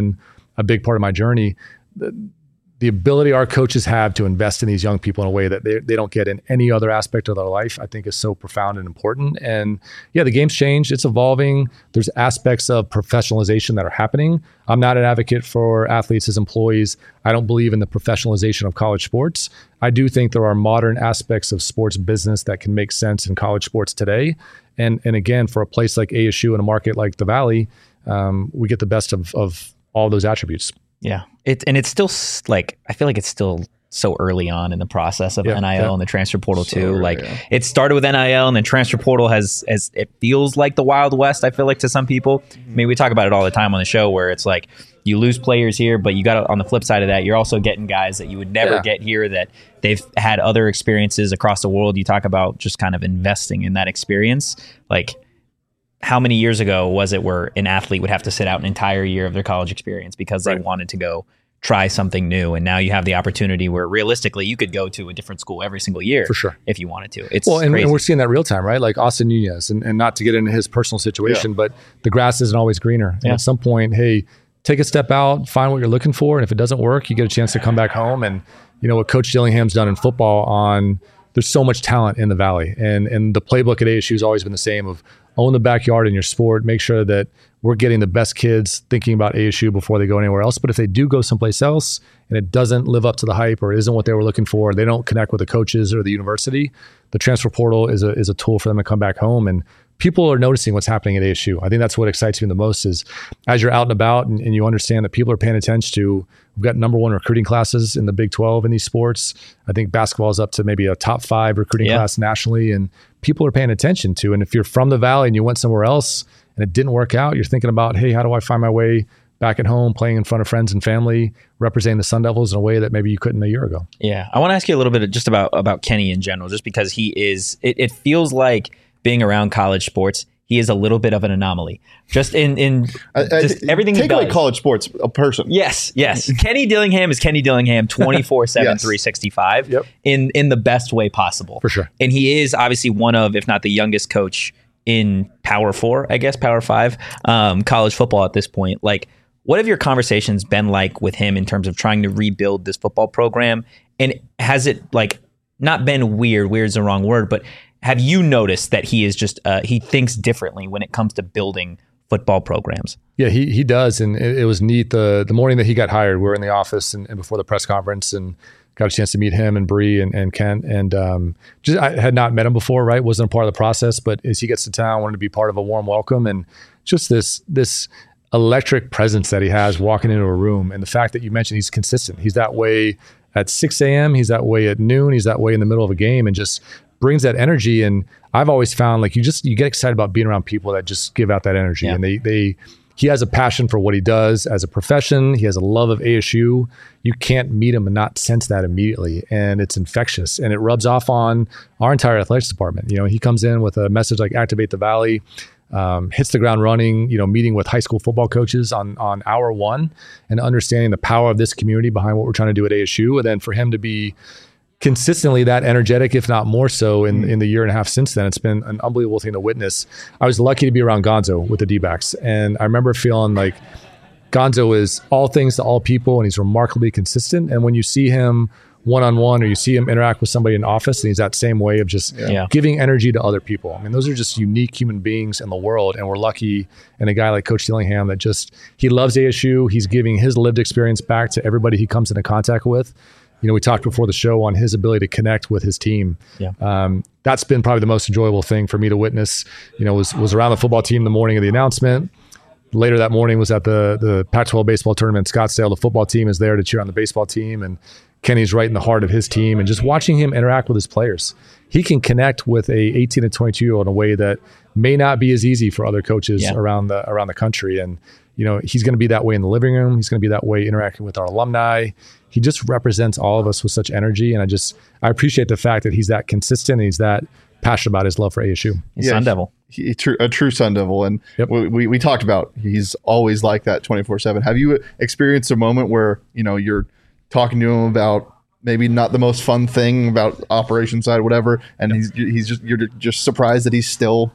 a big part of my journey. The, the ability our coaches have to invest in these young people in a way that they, they don't get in any other aspect of their life, I think is so profound and important. And yeah, the game's changed. It's evolving. There's aspects of professionalization that are happening. I'm not an advocate for athletes as employees. I don't believe in the professionalization of college sports. I do think there are modern aspects of sports business that can make sense in college sports today. And and again, for a place like A S U and a market like the Valley, um, we get the best of, of all those attributes. Yeah. It, and it's still s- like, I feel like it's still so early on in the process of Yeah, N I L yeah. and the transfer portal So too. early, Like yeah. it started with N I L and then transfer portal has, as it feels like the Wild West, I feel like to some people. I mean, we talk about it all the time on the show where it's like you lose players here, but you got to, on the flip side of that, you're also getting guys that you would never Yeah. get here that they've had other experiences across the world. You talk about just kind of investing in that experience. Like, how many years ago was it where an athlete would have to sit out an entire year of their college experience because they Right. wanted to go try something new? And now you have the opportunity where realistically you could go to a different school every single year For sure. if you wanted to. It's Well, and, crazy. and we're seeing that real time, right? Like Austin Nunez, and, and not to get into his personal situation, but the grass isn't always greener. And Yeah. at some point, hey, take a step out, find what you're looking for. And if it doesn't work, you get a chance to come back home. And, you know, what Coach Dillingham's done in football on, there's so much talent in the Valley. And, and the playbook at A S U has always been the same of own the backyard in your sport, make sure that we're getting the best kids thinking about A S U before they go anywhere else. But if they do go someplace else and it doesn't live up to the hype or isn't what they were looking for, they don't connect with the coaches or the university, the transfer portal is a is a tool for them to come back home. And people are noticing what's happening at A S U. I think that's what excites me the most is as you're out and about and, and you understand that people are paying attention to, we've got number one recruiting classes in the Big twelve in these sports. I think basketball is up to maybe a top five recruiting Yeah. class nationally, and people are paying attention to. And if you're from the Valley and you went somewhere else and it didn't work out, you're thinking about, hey, how do I find my way back at home, playing in front of friends and family, representing the Sun Devils in a way that maybe you couldn't a year ago? Yeah, I want to ask you a little bit just about about Kenny in general, just because he is. It, it feels like being around college sports, he is a little bit of an anomaly. Just in in I- I- just everything he Take away does. college sports, a person. Yes, yes. Kenny Dillingham is Kenny Dillingham twenty-four seven, Yes. three sixty-five Yep. in in the best way possible. For sure. And he is obviously one of, if not the youngest coach in Power Four, I guess, Power Five, um, college football at this point. Like, what have your conversations been like with him in terms of trying to rebuild this football program? And has it like not been weird? Weird's the wrong word, but have you noticed that he is just uh, he thinks differently when it comes to building football programs? Yeah, he he does, and it, it was neat. the The morning that he got hired, we were in the office and, and before the press conference, and got a chance to meet him and Bree and, and Kent, and um, just I had not met him before, right? Wasn't a part of the process, but as he gets to town, wanted to be part of a warm welcome, and just this this electric presence that he has walking into a room, and the fact that you mentioned he's consistent. He's that way at six a.m. He's that way at noon. He's that way in the middle of a game, and just brings that energy. And I've always found like you just you get excited about being around people that just give out that energy, Yeah. and they they he has a passion for what he does as a profession. He has a love of A S U. You can't meet him and not sense that immediately, and it's infectious, and it rubs off on our entire athletics department. You know, he comes in with a message like "Activate the Valley." Um, hits the ground running, you know, meeting with high school football coaches on on hour one and understanding the power of this community behind what we're trying to do at A S U. And then for him to be consistently that energetic, if not more so in, in the year and a half since then, it's been an unbelievable thing to witness. I was lucky to be around Gonzo with the D-backs. And I remember feeling like Gonzo is all things to all people, and he's remarkably consistent. And when you see him one-on-one or you see him interact with somebody in office, and he's that same way of just Yeah. giving energy to other people. I mean, those are just unique human beings in the world, and we're lucky in a guy like Coach Dillingham that just, he loves A S U. He's giving his lived experience back to everybody he comes into contact with. You know, we talked before the show on his ability to connect with his team. Yeah. Um, that's been probably the most enjoyable thing for me to witness. You know, was was around the football team the morning of the announcement. Later that morning was at the the Pac twelve baseball tournament in Scottsdale. The football team is there to cheer on the baseball team, and Kenny's right in the heart of his team. And just watching him interact with his players, he can connect with a eighteen and twenty-two year old in a way that may not be as easy for other coaches Yeah. around the around the country. And you know, he's going to be that way in the living room. He's going to be that way interacting with our alumni. He just represents all of us with such energy, and I just I appreciate the fact that he's that consistent and he's that passionate about his love for A S U. He's Yeah, Sun Devil. He, he- true, a true Sun Devil, and Yep. we, we we talked about he's always like that twenty-four seven. Have you experienced a moment where you know you're talking to him about maybe not the most fun thing about operation side, whatever, and he's he's just you're just surprised that he's still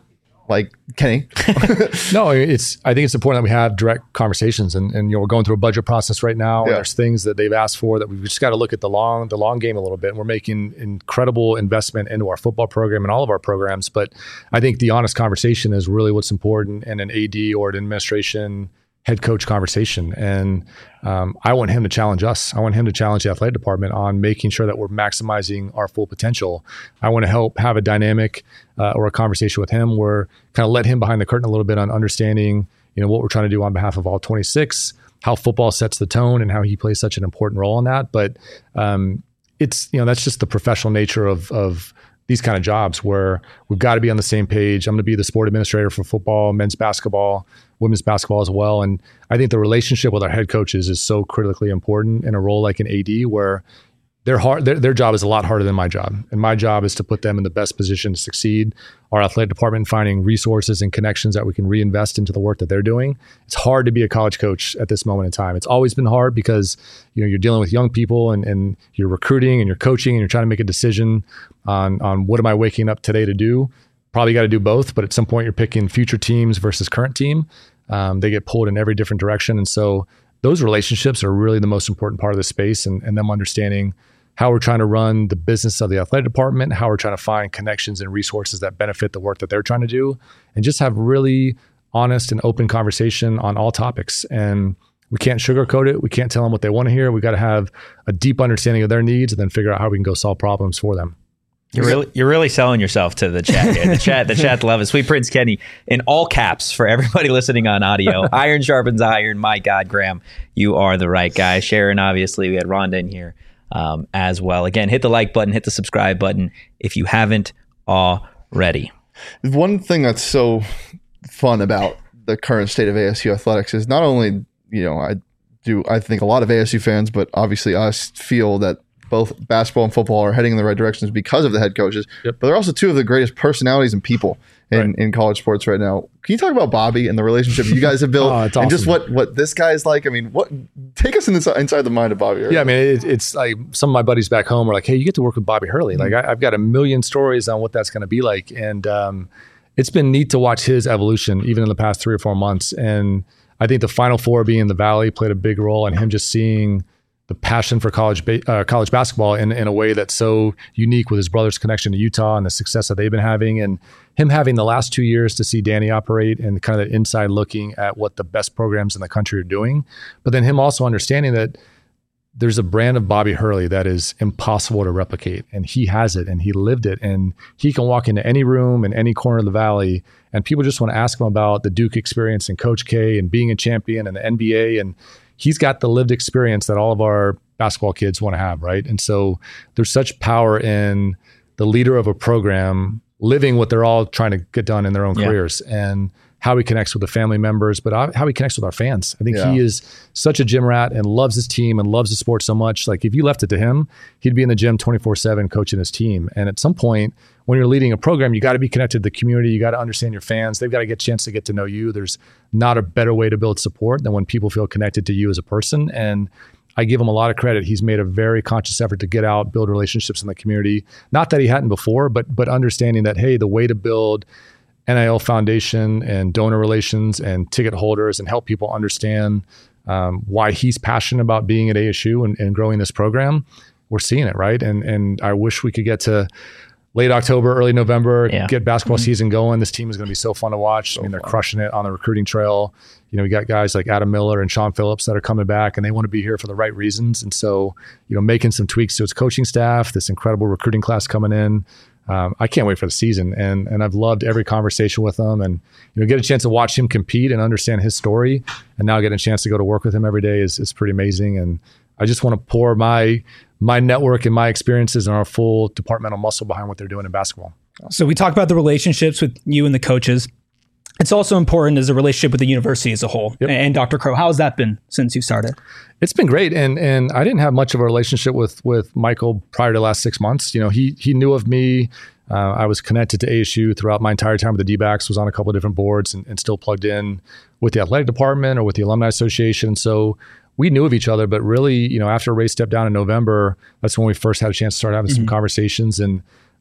like Kenny. No, it's. I think it's important that we have direct conversations, and, and you know we're going through a budget process right now. Yeah. And there's things that they've asked for that we've just got to look at the long the long game a little bit. And we're making incredible investment into our football program and all of our programs. But I think the honest conversation is really what's important in an A D or an administration head coach conversation. And um, I want him to challenge us. I want him to challenge the athletic department on making sure that we're maximizing our full potential. I want to help have a dynamic uh, or a conversation with him where kind of let him behind the curtain a little bit on understanding, you know, what we're trying to do on behalf of all twenty-six, how football sets the tone and how he plays such an important role in that. But um, it's, you know, that's just the professional nature of, of these kind of jobs where we've got to be on the same page. I'm going to be the sport administrator for football, men's basketball, women's basketball as well. And I think the relationship with our head coaches is so critically important in a role like an A D where their hard, their, their job is a lot harder than my job. And my job is to put them in the best position to succeed. Our athletic department finding resources and connections that we can reinvest into the work that they're doing. It's hard to be a college coach at this moment in time. It's always been hard because you know you're dealing with young people and, and you're recruiting and you're coaching and you're trying to make a decision on, on what am I waking up today to do. Probably got to do both, but at some point you're picking future teams versus current team. Um, they get pulled in every different direction. And so those relationships are really the most important part of the space and, and them understanding how we're trying to run the business of the athletic department, how we're trying to find connections and resources that benefit the work that they're trying to do, and just have really honest and open conversation on all topics. And we can't sugarcoat it. We can't tell them what they want to hear. We got to have a deep understanding of their needs and then figure out how we can go solve problems for them. You're really, you're really selling yourself to the chat here. The chat, the chat love it. Sweet Prince Kenny in all caps for everybody listening on audio. Iron sharpens iron. My God, Graham, you are the right guy. Sharon, obviously, we had Rhonda in here um, as well. Again, hit the like button, hit the subscribe button if you haven't already. One thing that's so fun about the current state of A S U athletics is not only, you know, I do, I think a lot of A S U fans, but obviously us feel that both basketball and football are heading in the right directions because of the head coaches, yep. but they're also two of the greatest personalities and people in, right. in college sports right now. Can you talk about Bobby and the relationship you guys have built oh, and awesome. just what, what this guy is like? I mean, what take us in this, inside the mind of Bobby Hurley. Yeah, I mean, it, it's like some of my buddies back home are like, hey, you get to work with Bobby Hurley. Mm-hmm. Like I, I've got a million stories on what that's going to be like. And um, it's been neat to watch his evolution even in the past three or four months. And I think the Final Four being in the Valley played a big role in him just seeing the passion for college ba- uh, college basketball in, in a way that's so unique with his brother's connection to Utah and the success that they've been having, and him having the last two years to see Danny operate and kind of that inside looking at what the best programs in the country are doing. But then him also understanding that there's a brand of Bobby Hurley that is impossible to replicate, and he has it and he lived it, and he can walk into any room in any corner of the Valley and people just want to ask him about the Duke experience and Coach K and being a champion and the N B A, and he's got the lived experience that all of our basketball kids want to have, right? And so there's such power in the leader of a program living what they're all trying to get done in their own yeah. careers, and how he connects with the family members, but how he connects with our fans. I think yeah. he is such a gym rat and loves his team and loves the sport so much. Like if you left it to him, he'd be in the gym twenty-four seven coaching his team. And at some point, when you're leading a program, you got to be connected to the community. You got to understand your fans. They've got to get a chance to get to know you. There's not a better way to build support than when people feel connected to you as a person. And I give him a lot of credit. He's made a very conscious effort to get out, build relationships in the community. Not that he hadn't before, but but understanding that, hey, the way to build N I L Foundation and donor relations and ticket holders and help people understand um, why he's passionate about being at A S U and, and growing this program, we're seeing it, right? And and I wish we could get to late October, early November, yeah. get basketball mm-hmm. season going. This team is going to be so fun to watch. So I mean, they're fun. Crushing it on the recruiting trail. You know, we got guys like Adam Miller and Sean Phillips that are coming back, and they want to be here for the right reasons. And so, you know, making some tweaks to its coaching staff, this incredible recruiting class coming in. Um, I can't wait for the season, and and I've loved every conversation with him, and you know, get a chance to watch him compete and understand his story, and now getting a chance to go to work with him every day is is pretty amazing. And I just want to pour my my network and my experiences and our full departmental muscle behind what they're doing in basketball. So we talked about the relationships with you and the coaches. It's also important as a relationship with the university as a whole. Yep. And Doctor Crow, how has that been since you started? It's been great. And and I didn't have much of a relationship with with Michael prior to the last six months. You know, he he knew of me. Uh, I was connected to A S U throughout my entire time with the D-backs, was on a couple of different boards and, and still plugged in with the athletic department or with the alumni association. So we knew of each other, but really, you know, after Ray stepped down in November, that's when we first had a chance to start having mm-hmm. some conversations. And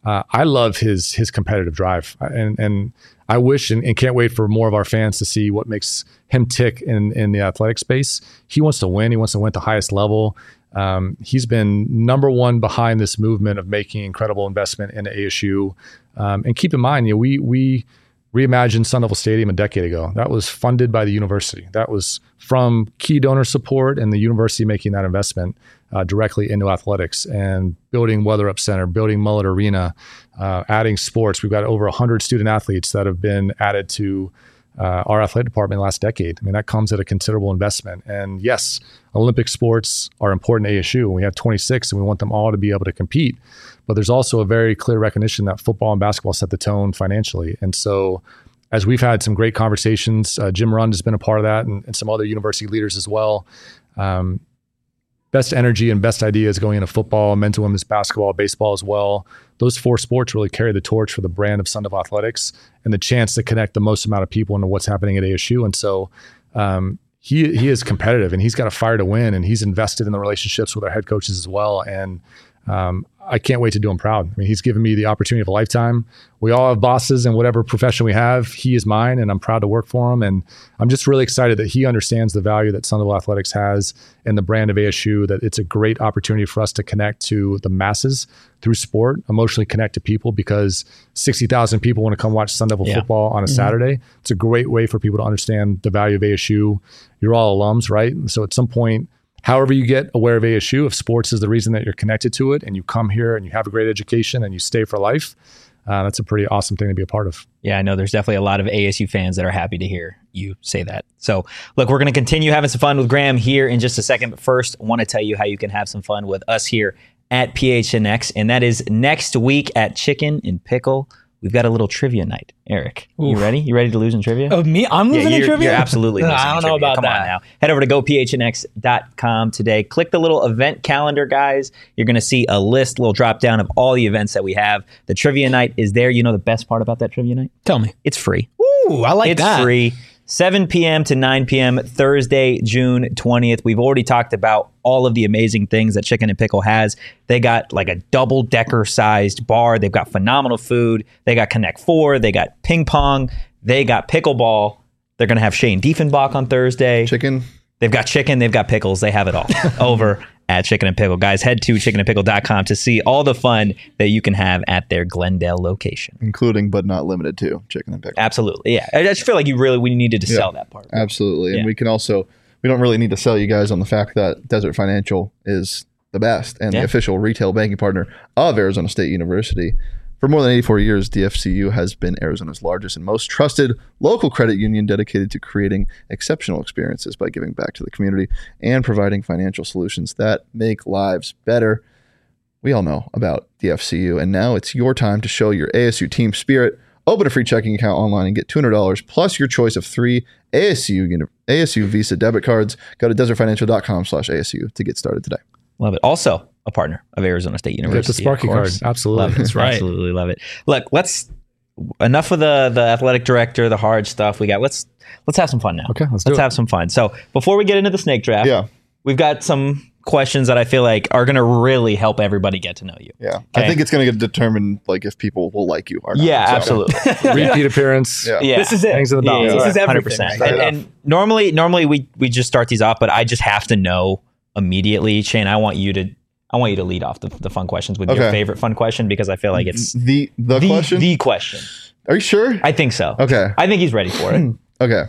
uh, I love his his competitive drive, and and I wish and, and can't wait for more of our fans to see what makes him tick in in the athletic space. He wants to win. He wants to win at the highest level. Um, he's been number one behind this movement of making incredible investment in A S U. Um, and keep in mind, you know, we we reimagined Sun Devil Stadium a decade ago. That was funded by the university. That was from key donor support and the university making that investment uh, directly into athletics and building Weather Up Center, building Mullet Arena, uh, adding sports. We've got over one hundred student athletes that have been added to uh, our athletic department in the last decade. I mean, that comes at a considerable investment. And yes, Olympic sports are important to A S U. We have twenty-six and we want them all to be able to compete. But there's also a very clear recognition that football and basketball set the tone financially. And so as we've had some great conversations, uh, Jim Rund has been a part of that and, and some other university leaders as well. Um, best energy and best ideas going into football, men's and women's basketball, baseball as well. Those four sports really carry the torch for the brand of Sun Devil Athletics and the chance to connect the most amount of people into what's happening at A S U. And so um, he he is competitive and he's got a fire to win and he's invested in the relationships with our head coaches as well. And um, I can't wait to do him proud. I mean, he's given me the opportunity of a lifetime. We all have bosses in whatever profession we have. He is mine, and I'm proud to work for him. And I'm just really excited that he understands the value that Sun Devil Athletics has and the brand of A S U, that it's a great opportunity for us to connect to the masses through sport, emotionally connect to people, because sixty thousand people want to come watch Sun Devil yeah. football on a mm-hmm. Saturday. It's a great way for people to understand the value of A S U. You're all alums, right? So at some point, however you get aware of A S U, if sports is the reason that you're connected to it and you come here and you have a great education and you stay for life, uh, that's a pretty awesome thing to be a part of. Yeah, I know there's definitely a lot of A S U fans that are happy to hear you say that. So look, we're going to continue having some fun with Graham here in just a second. But first, I want to tell you how you can have some fun with us here at P H N X. And that is next week at Chicken and Pickle. We've got a little trivia night. Eric, Oof. you ready? You ready to lose in trivia? Oh, me? I'm losing yeah, in trivia? You're absolutely losing I don't know trivia. about Come that. on now. Head over to go p h n x dot com today. Click the little event calendar, guys. You're going to see a list, little drop down of all the events that we have. The trivia night is there. You know the best part about that trivia night? Tell me. It's free. Ooh, I like it's that. It's free. seven p.m. to nine p.m. Thursday, June twentieth. We've already talked about all of the amazing things that Chicken and Pickle has. They got like a double-decker sized bar. They've got phenomenal food. They got Connect Four. They got ping pong. They got pickleball. They're going to have Shane Diefenbach on Thursday. Chicken. They've got chicken. They've got pickles. They have it all over at Chicken and Pickle. Guys, head to chicken and pickle dot com to see all the fun that you can have at their Glendale location. Including, but not limited to, Chicken and Pickle. Absolutely, yeah. I just feel like you really, we needed to yeah, sell that part. Absolutely. And yeah. we can also, we don't really need to sell you guys on the fact that Desert Financial is the best and yeah. the official retail banking partner of Arizona State University. For more than eighty-four years, D F C U has been Arizona's largest and most trusted local credit union, dedicated to creating exceptional experiences by giving back to the community and providing financial solutions that make lives better. We all know about D F C U, and now it's your time to show your A S U team spirit. Open a free checking account online and get two hundred dollars plus your choice of three A S U A S U Visa debit cards. Go to desert financial dot com slash A S U to get started today. Love it. Also, a partner of Arizona State University. Get the Sparky card. Absolutely. Love it. That's right. Absolutely love it. Look, let's enough of the the athletic director, the hard stuff we got. Let's let's have some fun now. Okay, let's, let's do have it. some fun. So before we get into the snake draft, yeah. we've got some questions that I feel like are going to really help everybody get to know you. Yeah. Okay? I think it's going to determine like if people will like you or not. Yeah, so. absolutely. Repeat appearance. Yeah. yeah. This is it. Things in the balance. Yeah, this is one hundred everything. percent. And, and normally, normally we we just start these off, but I just have to know immediately. Shane, I want you to I want you to lead off the, the fun questions with okay. your favorite fun question, because I feel like it's the the, the question. The question. Are you sure? I think so. Okay. I think he's ready for it. Okay.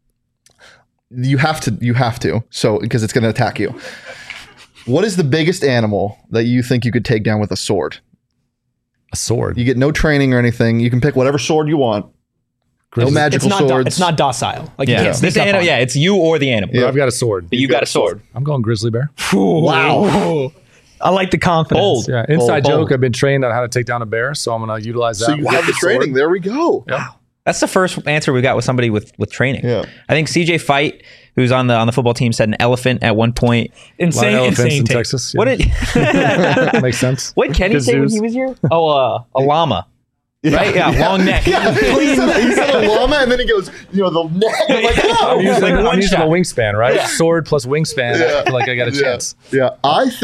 You have to. You have to. So because it's going to attack you. What is the biggest animal that you think you could take down with a sword? A sword. You get no training or anything. You can pick whatever sword you want. No magical it's not swords. Do, it's not docile. Like yeah. you can't sneak This up animal, on yeah, it's you or the animal. Yeah. I've got a sword. But you got, got a sword. sword. I'm going grizzly bear. Wow. I like the confidence. Bold. Yeah. Inside bold, joke. bold. I've been trained on how to take down a bear, so I'm going to utilize that. So you have the training. sword. There we go. Yeah. That's the first answer we got with somebody with, with training. Yeah. I think C J Fight, who's on the on the football team, said an elephant at one point. Insane, elephants insane in take. Texas. Yeah. What did makes sense? What did Kenny say when he was here? Oh, uh, a llama. Yeah. Right? Yeah, long neck. Yeah, he, said, he said a llama, and then he goes, you know, the neck. I'm like, oh. I'm using, like I'm one using shot. a wingspan, right? Yeah. Sword plus wingspan. Yeah. I feel like I got a Yeah. chance. Yeah, I think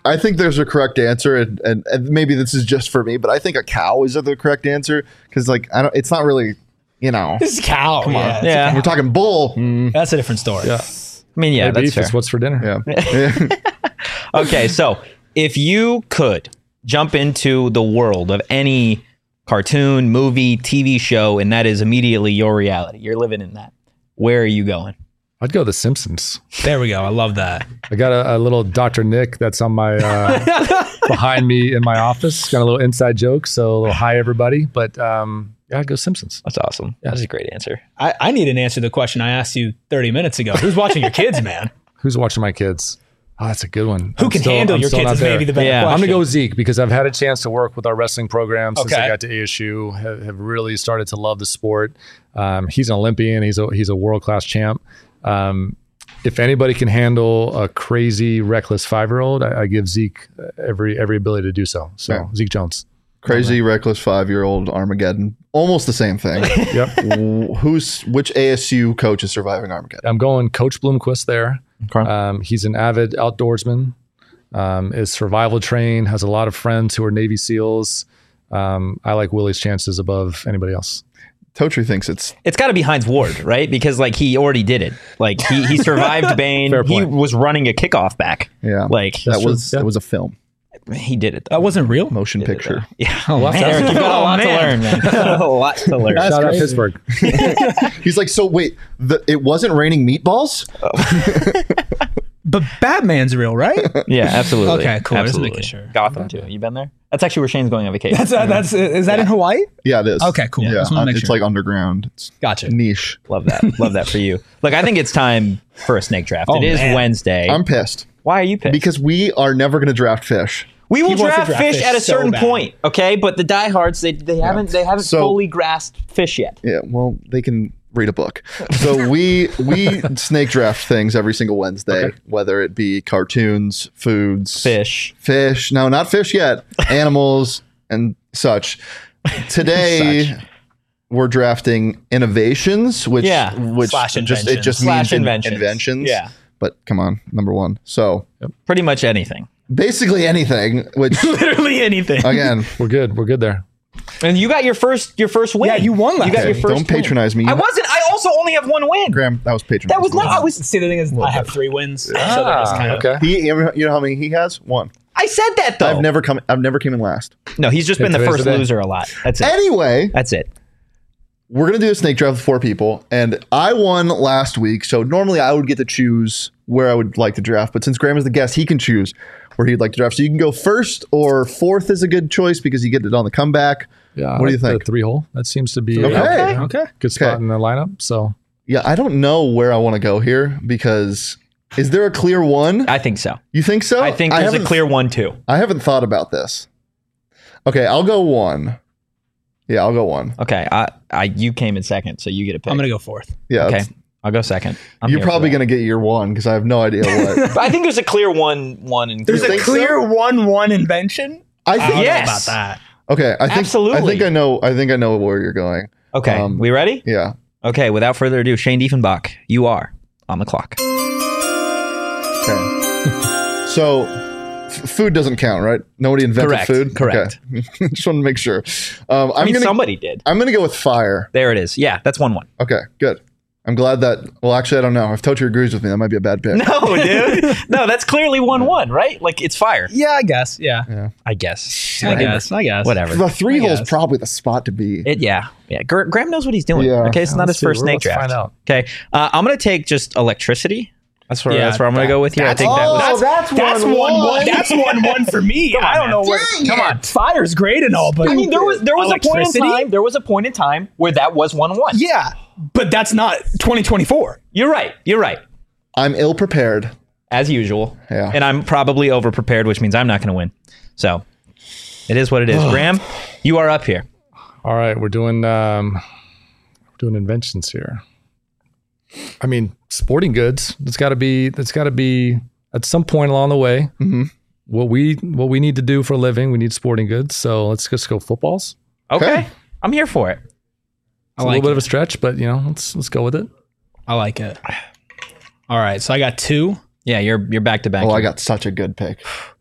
I think there's a correct answer, and, and, and maybe this is just for me, but I think a cow is the correct answer because, like, I don't. It's not really, you know. This is cow. Come on. yeah, it's Yeah. a We're cow. talking bull. Mm, That's a different story. Yeah. I mean, yeah, Hey, that's beef fair. is what's for dinner. yeah. Okay, so if you could jump into the world of any cartoon, movie, T V show, and that is immediately your reality, you're living in that, where are you going? I'd go The Simpsons. There we go. I love that. I got a, a little Doctor Nick that's on my uh, behind me in my office. Got a little inside joke, so a little hi everybody. But um, yeah, I'd go Simpsons. That's awesome. That's a great answer. I, I need an answer to the question I asked you thirty minutes ago. Who's watching your kids, man? Who's watching my kids? Oh, that's a good one. Who I'm can still- handle I'm your still kids not is there. maybe the better Yeah. question. I'm gonna go with Zeke because I've had a chance to work with our wrestling program since Okay. I got to A S U. Have, have really started to love the sport. Um, he's an Olympian. He's a he's a world class champ. Um, if anybody can handle a crazy, reckless five year old, I, I give Zeke every every ability to do so. So Yeah. Zeke Jones. Crazy, reckless five-year-old Armageddon. Almost the same thing. Yep. W- Who's which A S U coach is surviving Armageddon? I'm going Coach Bloomquist there. Okay. Um, he's an avid outdoorsman. Um, is survival trained. Has a lot of friends who are Navy SEALs. Um, I like Willie's chances above anybody else. Totri thinks it's It's got to be Heinz Ward, right? Because like he already did it. Like he he survived Bane. Fair He point. was running a kickoff back. yeah. Like that true. was Yeah. that was a film, he did it. That wasn't real. motion Did it, picture. though. Yeah. Oh, Lots man, to- Eric, you've got a Oh, lot to man. learn, man. a lot to learn. Shout out crazy. Pittsburgh. He's like, so wait, the, it wasn't raining meatballs? But Batman's real, right? Yeah, absolutely. Okay, cool. Just Absolutely. making sure. Gotham too. You been there? That's actually where Shane's going on vacation. That's uh, that's is that in Hawaii? Yeah, it is. Okay, cool. Yeah, Just wanna uh, make it's sure. like underground. It's Gotcha. niche. Love that. Love that for you. Look, I think it's time for a snake draft. Oh, it is man. Wednesday. I'm pissed Why are you pissed? because we are never going to draft fish. we will He wants to draft, draft fish, fish at a so certain bad. point, okay? But the diehards, they they haven't they haven't So- fully grasped fish yet. Yeah, well, they can read a book. So we we snake draft things every single Wednesday, Okay. whether it be cartoons, foods, Fish. fish. No, not fish yet. Animals and such. Today. Such. We're drafting innovations, which Yeah. which Slash just it just Slash means in- inventions. inventions. Yeah. But come on, number one. So Pretty much anything. basically anything. Which Literally anything. again, We're good. We're good there. And you got your first your first win. Yeah, you won last You got okay, your first don't patronize me. win. I wasn't. I also only have one win. Graham, that was patronizing. That was not. I was. See, the thing is, I have three wins. so they're just Ah, kind of, okay. He, you know how many he has? One. I said that though. I've never come. I've never came in last. No, he's just Hey, been the today's first the day. loser a lot. That's it. Anyway, That's it. we're gonna do a snake draft with four people, and I won last week. So normally I would get to choose where I would like to draft, but since Graham is the guest, he can choose where he'd like to draft. So you can go first or fourth is a good choice because you get it on the comeback. Yeah. I What do you like the think? Three hole. That seems to be Okay. a okay. good spot Okay. in the lineup. So Yeah, I don't know where I want to go here because is there a clear one? I think so. You think so? I think there's a haven't- clear one too. I haven't thought about this. Okay, I'll go one. Yeah, I'll go one. Okay, I, I, you came in second, so you get a pick. I'm gonna go fourth. Yeah, okay, it's- I'll go second. I'm you're here for probably that. gonna get your one because I have no idea what. But I think there's a clear one, one, and There's You a think clear so? one-one invention. I I think. don't Yes. know about that. Okay, I think. Absolutely. I think I know. I think I know where you're going. Okay, Um, we ready? Yeah. Okay, without further ado, Shane Diefenbach, you are on the clock. Okay. So, f- food doesn't count, right? Nobody invented Correct, food. correct. Okay. Just want to make sure. Um, I'm I mean, gonna. somebody did. I'm gonna go with fire. There it is. Yeah, that's one one. Okay, good. I'm glad that. Well, actually, I don't know. If Totri agrees with me, that might be a bad pick. No, dude. No, that's clearly one one, right? Like it's fire. Yeah, I guess. Yeah, I guess. I guess. I guess. Whatever. The three I hole is guess. probably the spot to be. It, yeah, yeah. Gr- Graham knows what he's doing. Yeah. Okay, it's not Let's his see. first Well, snake let's draft. find out. Okay, uh, I'm gonna take just electricity. That's where Yeah, that's where I'm gonna that- go with you. I that's- think that Oh, was. that's That's one, one, one. one. That's one one for me. I don't know where. Dang Come on, it. fire's great and all, but I mean, there was there was a point in Electricity? time. There was a point in time where that was one one. Yeah, but that's not twenty twenty-four. You're right. You're right. I'm ill prepared. As usual. Yeah. And I'm probably over prepared, which means I'm not going to win. So it is what it is. Graham, you are up here. all right, we're doing um, we're doing inventions here. I mean, sporting goods. That's got to be. That's got to be at some point along the way. Mhm. What we what we need to do for a living, we need sporting goods. So let's just go footballs. Okay. Okay. I'm here for it. It's I a like little bit it. of a stretch, but you know, let's let's go with it. I like it. All right, so I got two. Yeah, you're you're back to back. Oh, I got such a good pick.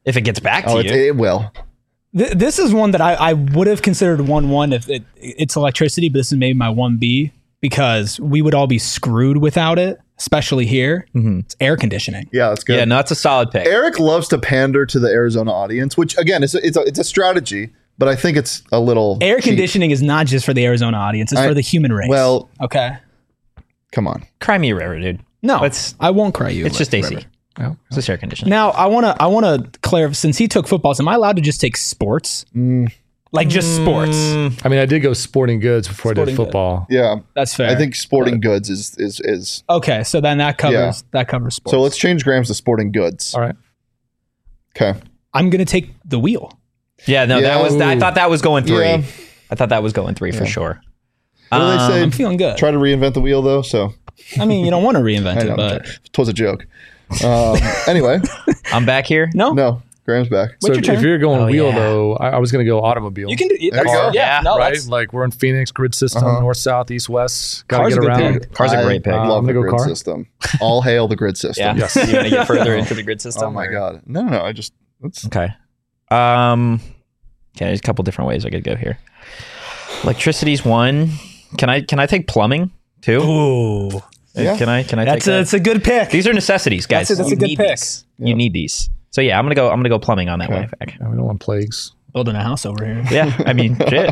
If it gets back to Oh, you. it, it will. Th- this is one that I, I would have considered one one if it, it's electricity, but this is maybe my one B because we would all be screwed without it, especially here. Mhm. It's air conditioning. Yeah, that's good. Yeah, no, it's a solid pick. Eric loves to pander to the Arizona audience, which again, is a, it's a, it's a strategy, but I think it's a little Air cheap. conditioning is not just for the Arizona audience; it's I- for the human race. well- okay, Come on. Cry me a river, dude. no, It's- I won't cry you. It's just A C. Oh. It's just air conditioning. Now I want to I want to clarify. Since he took football, am I allowed to just take sports? Like just sports? I mean, I did go sporting goods before I Sporting did good. football. Yeah, That's fair. I think sporting goods is is is. Okay, so then that covers Yeah. that covers sports. So let's change Grams to sporting goods. All right. Okay. I'm gonna take the wheel. Yeah, no, Yeah. that was. I Ooh. thought that was going three. Yeah. I thought that was going three for sure. What do they say? I'm feeling good. Try to reinvent the wheel, though. So I mean, you don't want to reinvent I it, know. but It was a joke. Um, anyway, I'm back here. no, no, Graham's back. So What's if, your if turn? you're going Oh, wheel, yeah. though, I, I was going to go automobile. you can do. There you that's- go. Yeah, Yeah, no, right? that's Like we're in Phoenix grid system, Uh-huh. north, south, east, west. Got to Car's get a good around. pick. Car's a I great pick. Uh, Love I'm the gonna go grid car. system. All hail the grid system. Yeah. Yes. You want to get further into the grid system? Oh my or- god. No, no, no. I just let's. Okay. Um. Okay, there's a couple different ways I could go here. Electricity's one. Can I can I take plumbing too? Ooh, Yeah. Can I can I that's take a that? that's a good pick. These are necessities, guys. That's a- that's You a good need pick. these. You need these. So yeah, I'm gonna go. I'm gonna go plumbing on that Okay. way. Back. Yeah, we don't want plagues. Building a house over here. Yeah, I mean, shit.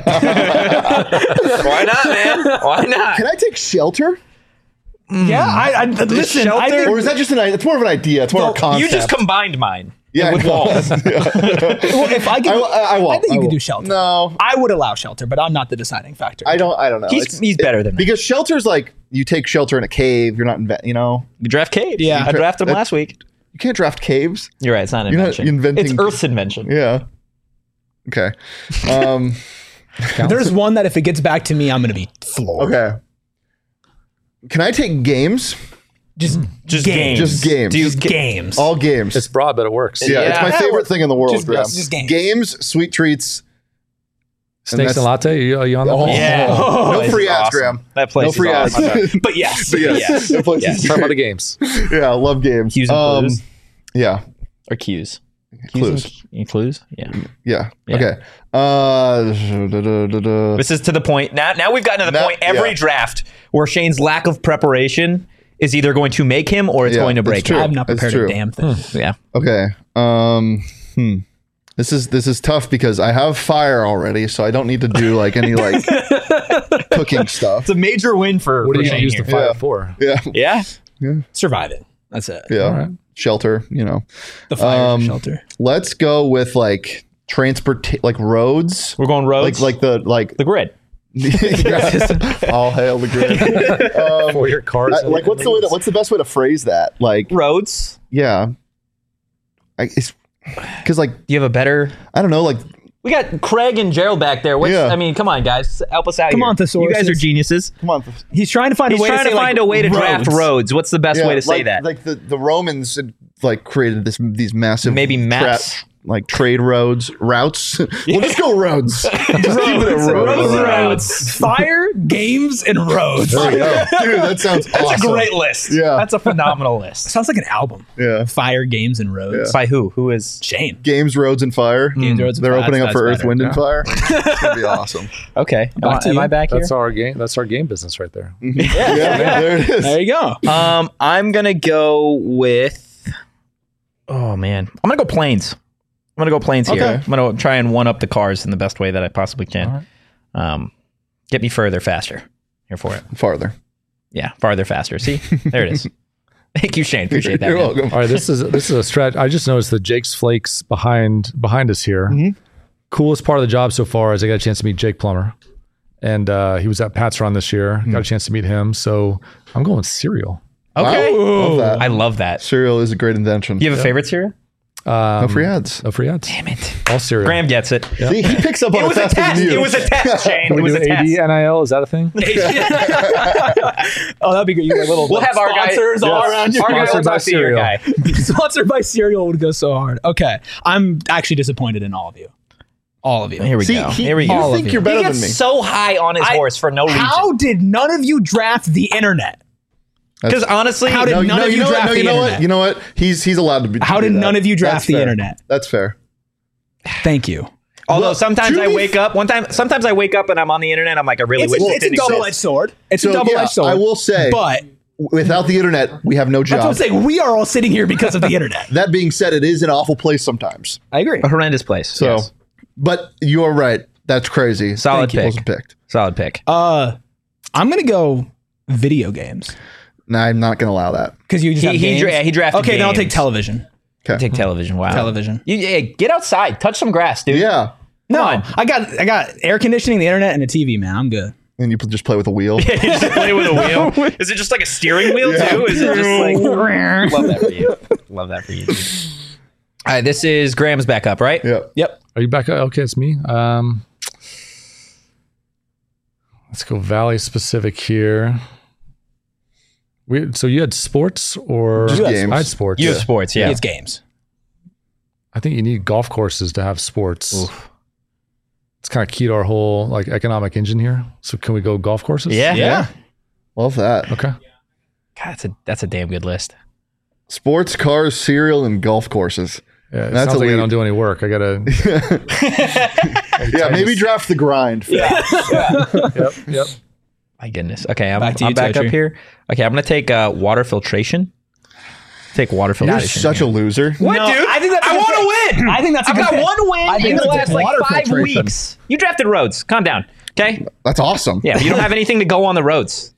Why not, man? Why not? Can I take shelter? Yeah, I, I listen. I shelter- think, Or is that just an? It's more of an idea. It's more of a concept. You just combined mine. yeah, with I know. walls. well, if I could, I, I, I won't. I think you will. could do shelter. No, I would allow shelter, but I'm not the deciding factor. I don't. I don't know. He's It's- he's better than me. because shelter's like you take shelter in a cave. You're not inve- You know, You draft caves. Yeah. I drafted them That- last week. you can't draft caves. You're right. It's not an You're not invention. inventing- It's Earth's invention. Yeah. Okay. Um. There's one that if it gets back to me, I'm gonna be floored. okay. Can I take games? Just Just games. games. Just games. Do you Just get- games. All games. It's broad, but it works. yeah, it's Yeah. my favorite thing in the world, Just- Graham. just games. Games, sweet treats. Snakes that's- and latte. Are you, are you on that? Oh. one? Yeah. No This free is ads, awesome. Graham. That place No is free awesome. ads. but yes. But yes, Yes. that place Yes. is Talk about the great. games. Yeah, I love games. Cues and Um, clues. Yeah, Or cues. clues. And, clues? Yeah. Yeah. Yeah. Okay. Uh, da, da, da, da. This is to the point. Now, now we've gotten to the Now- point every yeah. draft where Shane's lack of preparation is either going to make him or it's Yeah, going to it's break true. him. I'm not It's prepared true. a damn thing. Yeah. Okay. Um. Hmm. This is this is tough because I have fire already, so I don't need to do like any like cooking stuff. It's a major win for, What do for you Shane use here. the fire Yeah. for? Yeah. Yeah. Survive it. That's it. Yeah. All right. Shelter. You know. The fire Um, shelter. Let's go with like transport, like roads. We're going Like roads. like the like. the grid. All hail the grid. Um, For your cars. I- like what's the way to, what's the best way to phrase that? Like Roads. yeah. I, it's because like Do you have a better? I don't know like We got Craig and Gerald back there. What's, Yeah. I mean, come on, guys, help us out Come here. on, thesaurus. You guys are geniuses. come on He's trying to find He's a way trying to, to, say, find like, a way to draft roads. roads. What's the best Yeah, way to say like, that? like the the Romans had, like created this these massive Maybe maps. tra- like trade roads routes. We'll just go roads. Just keep it at Roads, roads. roads, fire, games, and roads. There you go. Dude, that sounds That's awesome. a great list. Yeah. That's a phenomenal list. Sounds like an album. Yeah. Fire, games, and roads. By who? Who is? Shane. Games, roads, and fire. Games, roads, and They're fire. opening up That's for Earth, better. Wind, and Fire. It's gonna be awesome. Okay. Am, Back I, to am you. I back here? That's our game. That's our game business right there. Yeah, there it is. There you go. Um, I'm gonna go with. Oh man, I'm gonna go planes. I'm gonna go planes here. Okay. I'm gonna try and one up the cars in the best way that I possibly can. All right. Um, get me further, faster. Here for it. Farther. Yeah, farther, faster. See, there it is. Thank you, Shane. Appreciate that. You're man. welcome. All right, this is this is a stretch. I just noticed the Jake's Flakes behind behind us here. Mhm. Coolest part of the job so far is I got a chance to meet Jake Plummer, and uh, he was at Pat's Run this year. Got a chance to meet him, so I'm going cereal. Okay. Wow. Love that. I love that. Cereal is a great invention. You have a favorite cereal? Um, No free ads. No free ads. Damn it. All cereal. Graham gets it. See, he picks up on It was a faster test. than you. It was a test, Shane. Can It we was do a A D test. N I L? Is that a thing? Oh, that'd be good. You got little We'll have our guy. sponsors all Yes. around you. Our guy Sponsored will by talk to your cereal. guy. Sponsored by cereal would go so hard. Okay. I'm actually disappointed in all of you. All of you. Here we See, go. he, Here we you go. All of think you. you're better He than gets me. so high on his I- horse for no reason. How did none of you draft the internet? Because honestly, How did No, none no, of you you know what? draft No, the you know internet? what? You know what? He's he's allowed to be. How to do did that. none of you draft That's the fair. internet? That's fair. Thank you. although Well, sometimes to I be wake up one time. Sometimes I wake up and I'm on the internet. I'm like, I really It's wish a, it it's a didn't double-edged exist. sword. It's So, a double-edged yeah, sword. I will say, But without the internet, we have no that's what I'm job. saying. We are all sitting here because of the internet. That being said, it is an awful place sometimes. I agree. A horrendous place. So, yes. but you're right. That's crazy. Solid Thank you. pick. Wasn't picked. Solid pick. Uh, I'm gonna go video games No, I'm not going to allow that. because you just He- have he games. dra- he drafted Okay, then I'll take games. television. Okay. Take television. Wow. Television. You, yeah, get outside. Touch some grass, dude. Yeah. No, on. I got I got air conditioning, the internet, and a T V. Man, I'm good. And you just play with a wheel. You just play with a wheel. Is it just like a steering wheel too? Is it just like love that for you? Love that for you. Dude. All right, this is Graham's back up, right? Yeah. Yep. Are you back? Okay, it's me. Um, let's go Valley specific here. We, so you had sports or Just games. I had sports. You have sports, yeah. It's games. I think you need golf courses to have sports. It's kind of key to our whole like economic engine here. So can we go golf courses? Yeah. Yeah. Love that. Okay. God, that's a that's a damn good list. Sports, cars, cereal, and golf courses. Yeah, it That's sounds like I elite. don't do any work. I gotta. Yeah, maybe draft the grind. Yeah. Yep. Yep. My goodness. Okay, I'm Back back, to you, I'm back up Totri. here. Okay, I'm gonna take uh, water filtration. Take water You're filtration. such a loser. What, No, dude? I think that's a I good want to win. I think that's a I've good got pick. one win I think in the that's a last good like water five filtration. weeks. You drafted Rhodes. Calm down. Okay. That's awesome. Yeah, you don't have anything to go on the roads.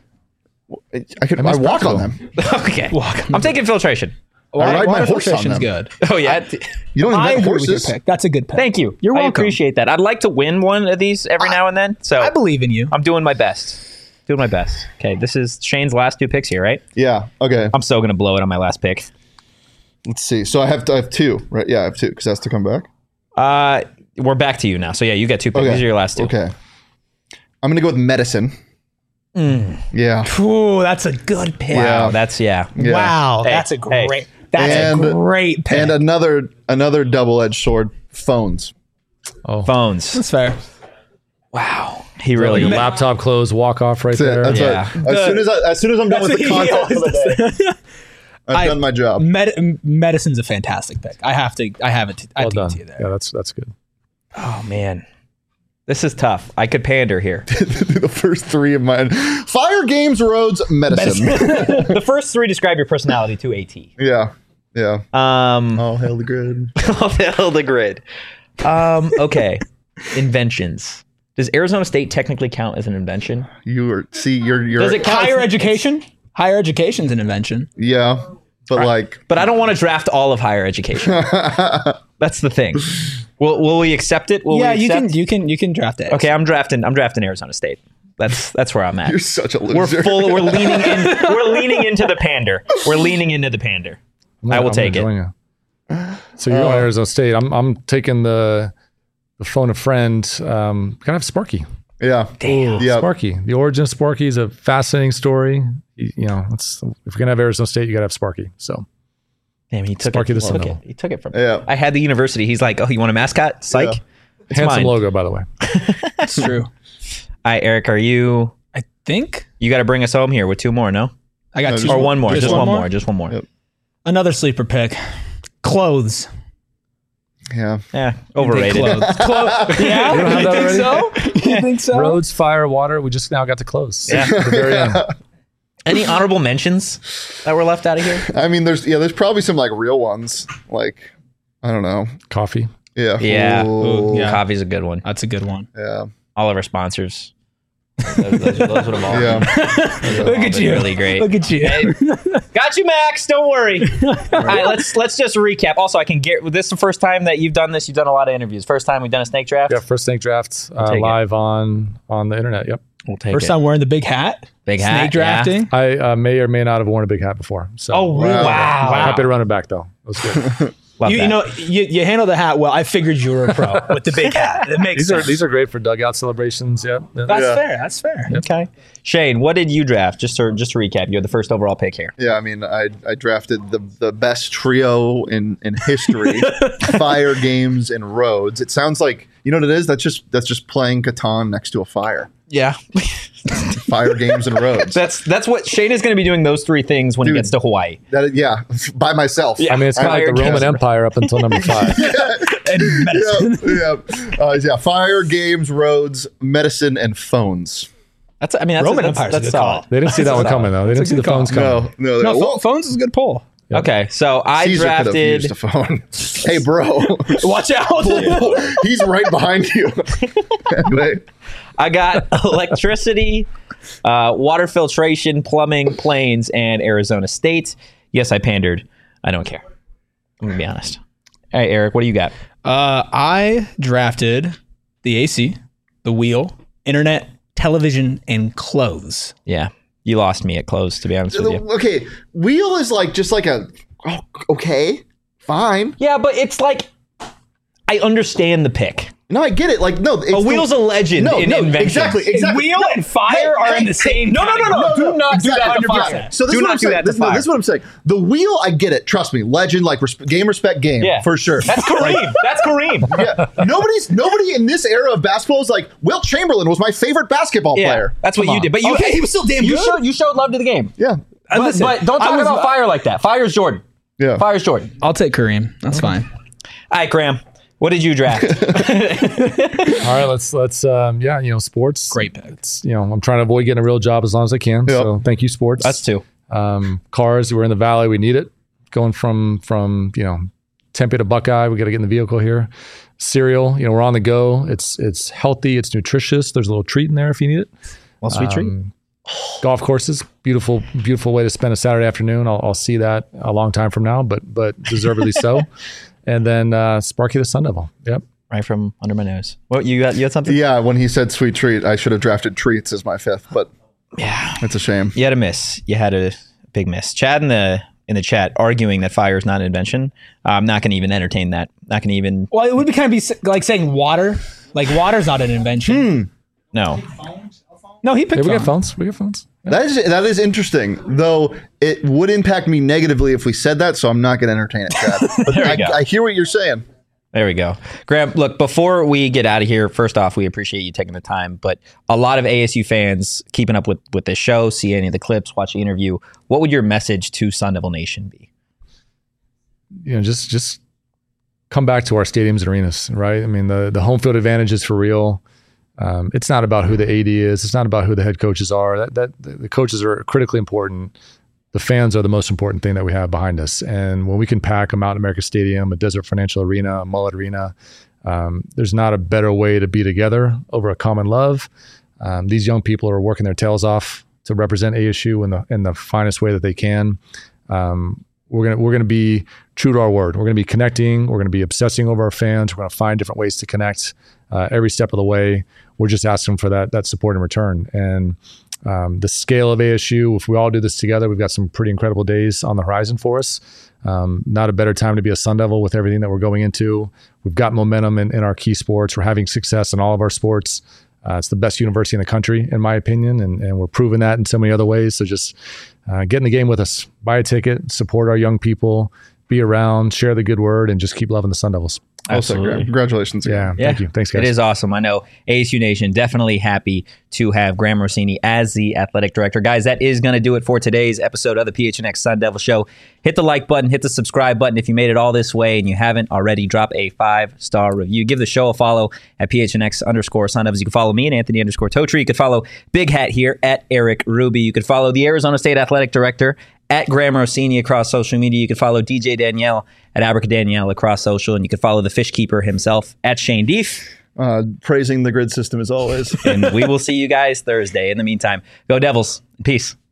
I could. I, miss walk on practical. them. Okay. Walk on I'm taking filtration. I ride my Water horse on filtration's them. good. Oh yeah. You don't I invent agree with your horses. pick. That's a good pick. Thank you. You're I welcome. appreciate that. I'd like to win one of these every now and then. So I believe in you. I'm doing my best. Doing my best. Okay, this is Shane's last two picks here, right? Yeah. Okay. I'm so gonna blow it on my last pick. Let's see. So I have I have two, right? Yeah, I have two because that's to come back. Uh, we're back to you now. So yeah, you get two picks. Okay. These are your last two. Okay. I'm gonna go with medicine. Yeah. Ooh, that's a good pick. Wow, Yeah. that's yeah. Yeah. Wow, Hey, that's a hey. great. That's And- a great pick. And another another double edged sword. Phones. Oh, Phones. that's fair. Wow. He really really. laptop close, walk off right That's it. there. That's Yeah. what, as soon as I, as soon as I'm done with the content for the day, I've I- done my job. Med- medicine's a fantastic pick. I have to. I have it. I Well have to done. give it to you there. Yeah, that's that's good. Oh man, this is tough. I could pander here. The first three of mine: fire, games, roads, medicine. The first three describe your personality to a T. Yeah. Yeah. Um, All hail the grid. I'll the grid. Um, okay. Inventions. Does Arizona State technically count as an invention? You are see. You're you're. Does it count? Higher as- education. Higher education's an invention. Yeah. But like. But I don't want to draft all of higher education. That's the thing. Will Will we accept it? Will yeah, we you accept? can. You can. You can draft it. Okay, I'm drafting. I'm drafting Arizona State. That's that's where I'm at. You're such a We're loser. full. We're leaning in. We're leaning into the pander. We're leaning into the pander. I'm I gonna- will I'm take gonna it. join you. So you're going Arizona State. I'm I'm taking the the phone a friend. Um, gotta have Sparky. Yeah. Damn. Yeah. Sparky. The origin of Sparky is a fascinating story. You, you know, it's, if you're gonna have Arizona State, you gotta have Sparky. So Damn, he took Sparky it. the He took Seminole. it. He took it from me. Yeah. I had the university. He's like, oh, you want a mascot? Psych. Yeah. It's handsome mine. logo, by the way. That's true. All right, Eric, are you? I think You got to bring us home here with two more, no? I got No, two. just Or one more. Just, Just one one more? more? Just one more. Yep. Another sleeper pick. Clothes. Yeah. Yeah, overrated. Clothes. Clothes. Yeah. don't have You that think so? You think so? Roads, fire, water. We just now got to close. Yeah. At the very end. Any honorable mentions that were left out of here? I mean, there's yeah, there's probably some like real ones. Like, I don't know. Coffee. Yeah. Yeah. Ooh, yeah. Coffee's a good one. That's a good one. Yeah. All of our sponsors. Those, those, those would have all. Yeah. Look all at been you. really great. Look at you. Got you, Max. Don't worry. All right, let's let's just recap. Also, I can get this is the first time that you've done this. You've done a lot of interviews. First time we've done a snake draft. Yeah, first snake draft uh, take it. live on on the internet. Yep. We'll take First it. time wearing the big hat. Big Snake hat, yeah. drafting. I uh, may or may not have worn a big hat before. So Oh wow! Wow. wow. happy to run it back though. It was good. Love You, that. you know, you, you handle the hat well. I figured you were a pro with the big hat. It makes these sense. are these are great for dugout celebrations. Yeah. yeah. That's Yeah. fair. That's fair. Okay. Shane, what did you draft? Just to just to recap, you had the first overall pick here. Yeah, I mean, I I drafted the the best trio in in history, fire, games, and roads. It sounds like you You know what it is? That's just that's just playing Catan next to a fire. Yeah. Fire games and roads. That's that's what Shane is going to be doing, those three things when Dude, he gets to Hawaii. That by by myself. Yeah. I mean, it's kind of like the Fire Roman games. Empire up until number five. And medicine. Yeah, yeah, uh, yeah. Fire games, roads, medicine, and phones. That's I mean that's Roman that's, Empire's a that's good solid. call. They didn't see that one coming, though. They didn't see the good call. phones coming. No, no. No, well, pho- phones is a good pull. Okay, so I Caesar could have drafted. used a phone. Hey, bro, Watch out. he's right behind you. Anyway, I got electricity, uh, water filtration, plumbing, planes, and Arizona State. Yes, I pandered. I don't care. I'm gonna be honest. All right, Eric, what do you got? Uh, I drafted the A C, the wheel, internet, television, and clothes. Yeah, you lost me at close, to be honest with you. okay. Wheel is like just like a. Oh, okay, fine. Yeah, but it's like I understand the pick. No, I get it. Like no, it's A wheel's a legend no, in no, invention. exactly, exactly. Wheel and fire are in the same no, no, no, no, category. do not do that to exactly. fire. So this Do is what not I'm do saying. that to This, no, fire. this is what I'm saying. The wheel, I get it. Trust me, legend, like res- game, respect, game, Yeah, for sure. That's Kareem. That's Kareem. Yeah, nobody's nobody in this era of basketball is like Wilt Chamberlain was my favorite basketball Yeah, player. that's what Come you on. did. But you, Okay, he was still damn you good. showed you showed love to the game. Yeah, But, listen, but don't I talk was- about fire like that. Fire's Jordan. yeah. Fire's Jordan. I'll take Kareem. That's fine. All right, Graham. What did you draft? All right, let's let's um, yeah, you know, sports. Great pick. It's, you know, I'm trying to avoid getting a real job as long as I can. Yep. So thank you, sports. Us too. Um, cars, we're in the valley, we need it. Going from from you know Tempe to Buckeye, we got to get in the vehicle here. Cereal, you know, we're on the go. It's it's healthy, it's nutritious. There's a little treat in there if you need it. Well, sweet treat. Um, golf courses, beautiful, beautiful way to spend a Saturday afternoon. I'll, I'll see that a long time from now, but but deservedly so. And then uh, Sparky the Sun Devil. Yep. Right from under my nose. What you got? You had something? Yeah, when he said sweet treat, I should have drafted treats as my fifth, but Yeah. it's a shame. You had a miss. You had a big miss. Chad in the in the chat arguing that fire is not an invention. Uh, I'm not going to even entertain that. Not going to even. Well, it would be kind of be s- like saying water. Like water's not an invention. No. No, he picked Yeah, we phone. get phones. We get phones. That is that is interesting, though. It would impact me negatively if we said that, so I'm not going to entertain it, Chad. But There we I, go. I hear what you're saying. There we go. Graham, look, before we get out of here, first off, we appreciate you taking the time, but a lot of A S U fans keeping up with, with this show, see any of the clips, watch the interview. What would your message to Sun Devil Nation be? You know, just just come back to our stadiums and arenas, right? I mean, the the home field advantage is for real. Um, it's not about who the A D is. It's not about who the head coaches are. That that the coaches are critically important. The fans are the most important thing that we have behind us. And when we can pack a Mountain America Stadium, a Desert Financial Arena, a Mullet Arena, um, there's not a better way to be together over a common love. Um, these young people are working their tails off to represent A S U in the in the finest way that they can. Um, we're gonna we're gonna be true to our word. We're gonna be connecting. We're gonna be obsessing over our fans. We're gonna find different ways to connect uh, every step of the way. We're just asking for that that support in return. And um, the scale of A S U, if we all do this together, we've got some pretty incredible days on the horizon for us. Um, not a better time to be a Sun Devil with everything that we're going into. We've got momentum in, in our key sports. We're having success in all of our sports. Uh, it's the best university in the country, in my opinion, and, and we're proving that in so many other ways. So just uh, get in the game with us, buy a ticket, support our young people, be around, share the good word, and just keep loving the Sun Devils. Absolutely. Congratulations again. Yeah, thank you. Thanks, guys. It is awesome. I know A S U Nation definitely happy to have Graham Rossini as the athletic director. Guys, that is going to do it for today's episode of the P H N X Sun Devil Show. Hit the like button, hit the subscribe button if you made it all this way and you haven't already. Drop a five-star review. Give the show a follow at P H N X underscore Sun Devils. You can follow me and Anthony underscore Totri. You can follow Big Hat here at Eric Ruby. You can follow the Arizona State athletic director at Graham Rossini across social media. You can follow D J Danielle at Abracadanielle across social, and you can follow the fish keeper himself at Shane Deef. Uh, praising the grid system as always. And we will see you guys Thursday. In the meantime, go Devils. Peace.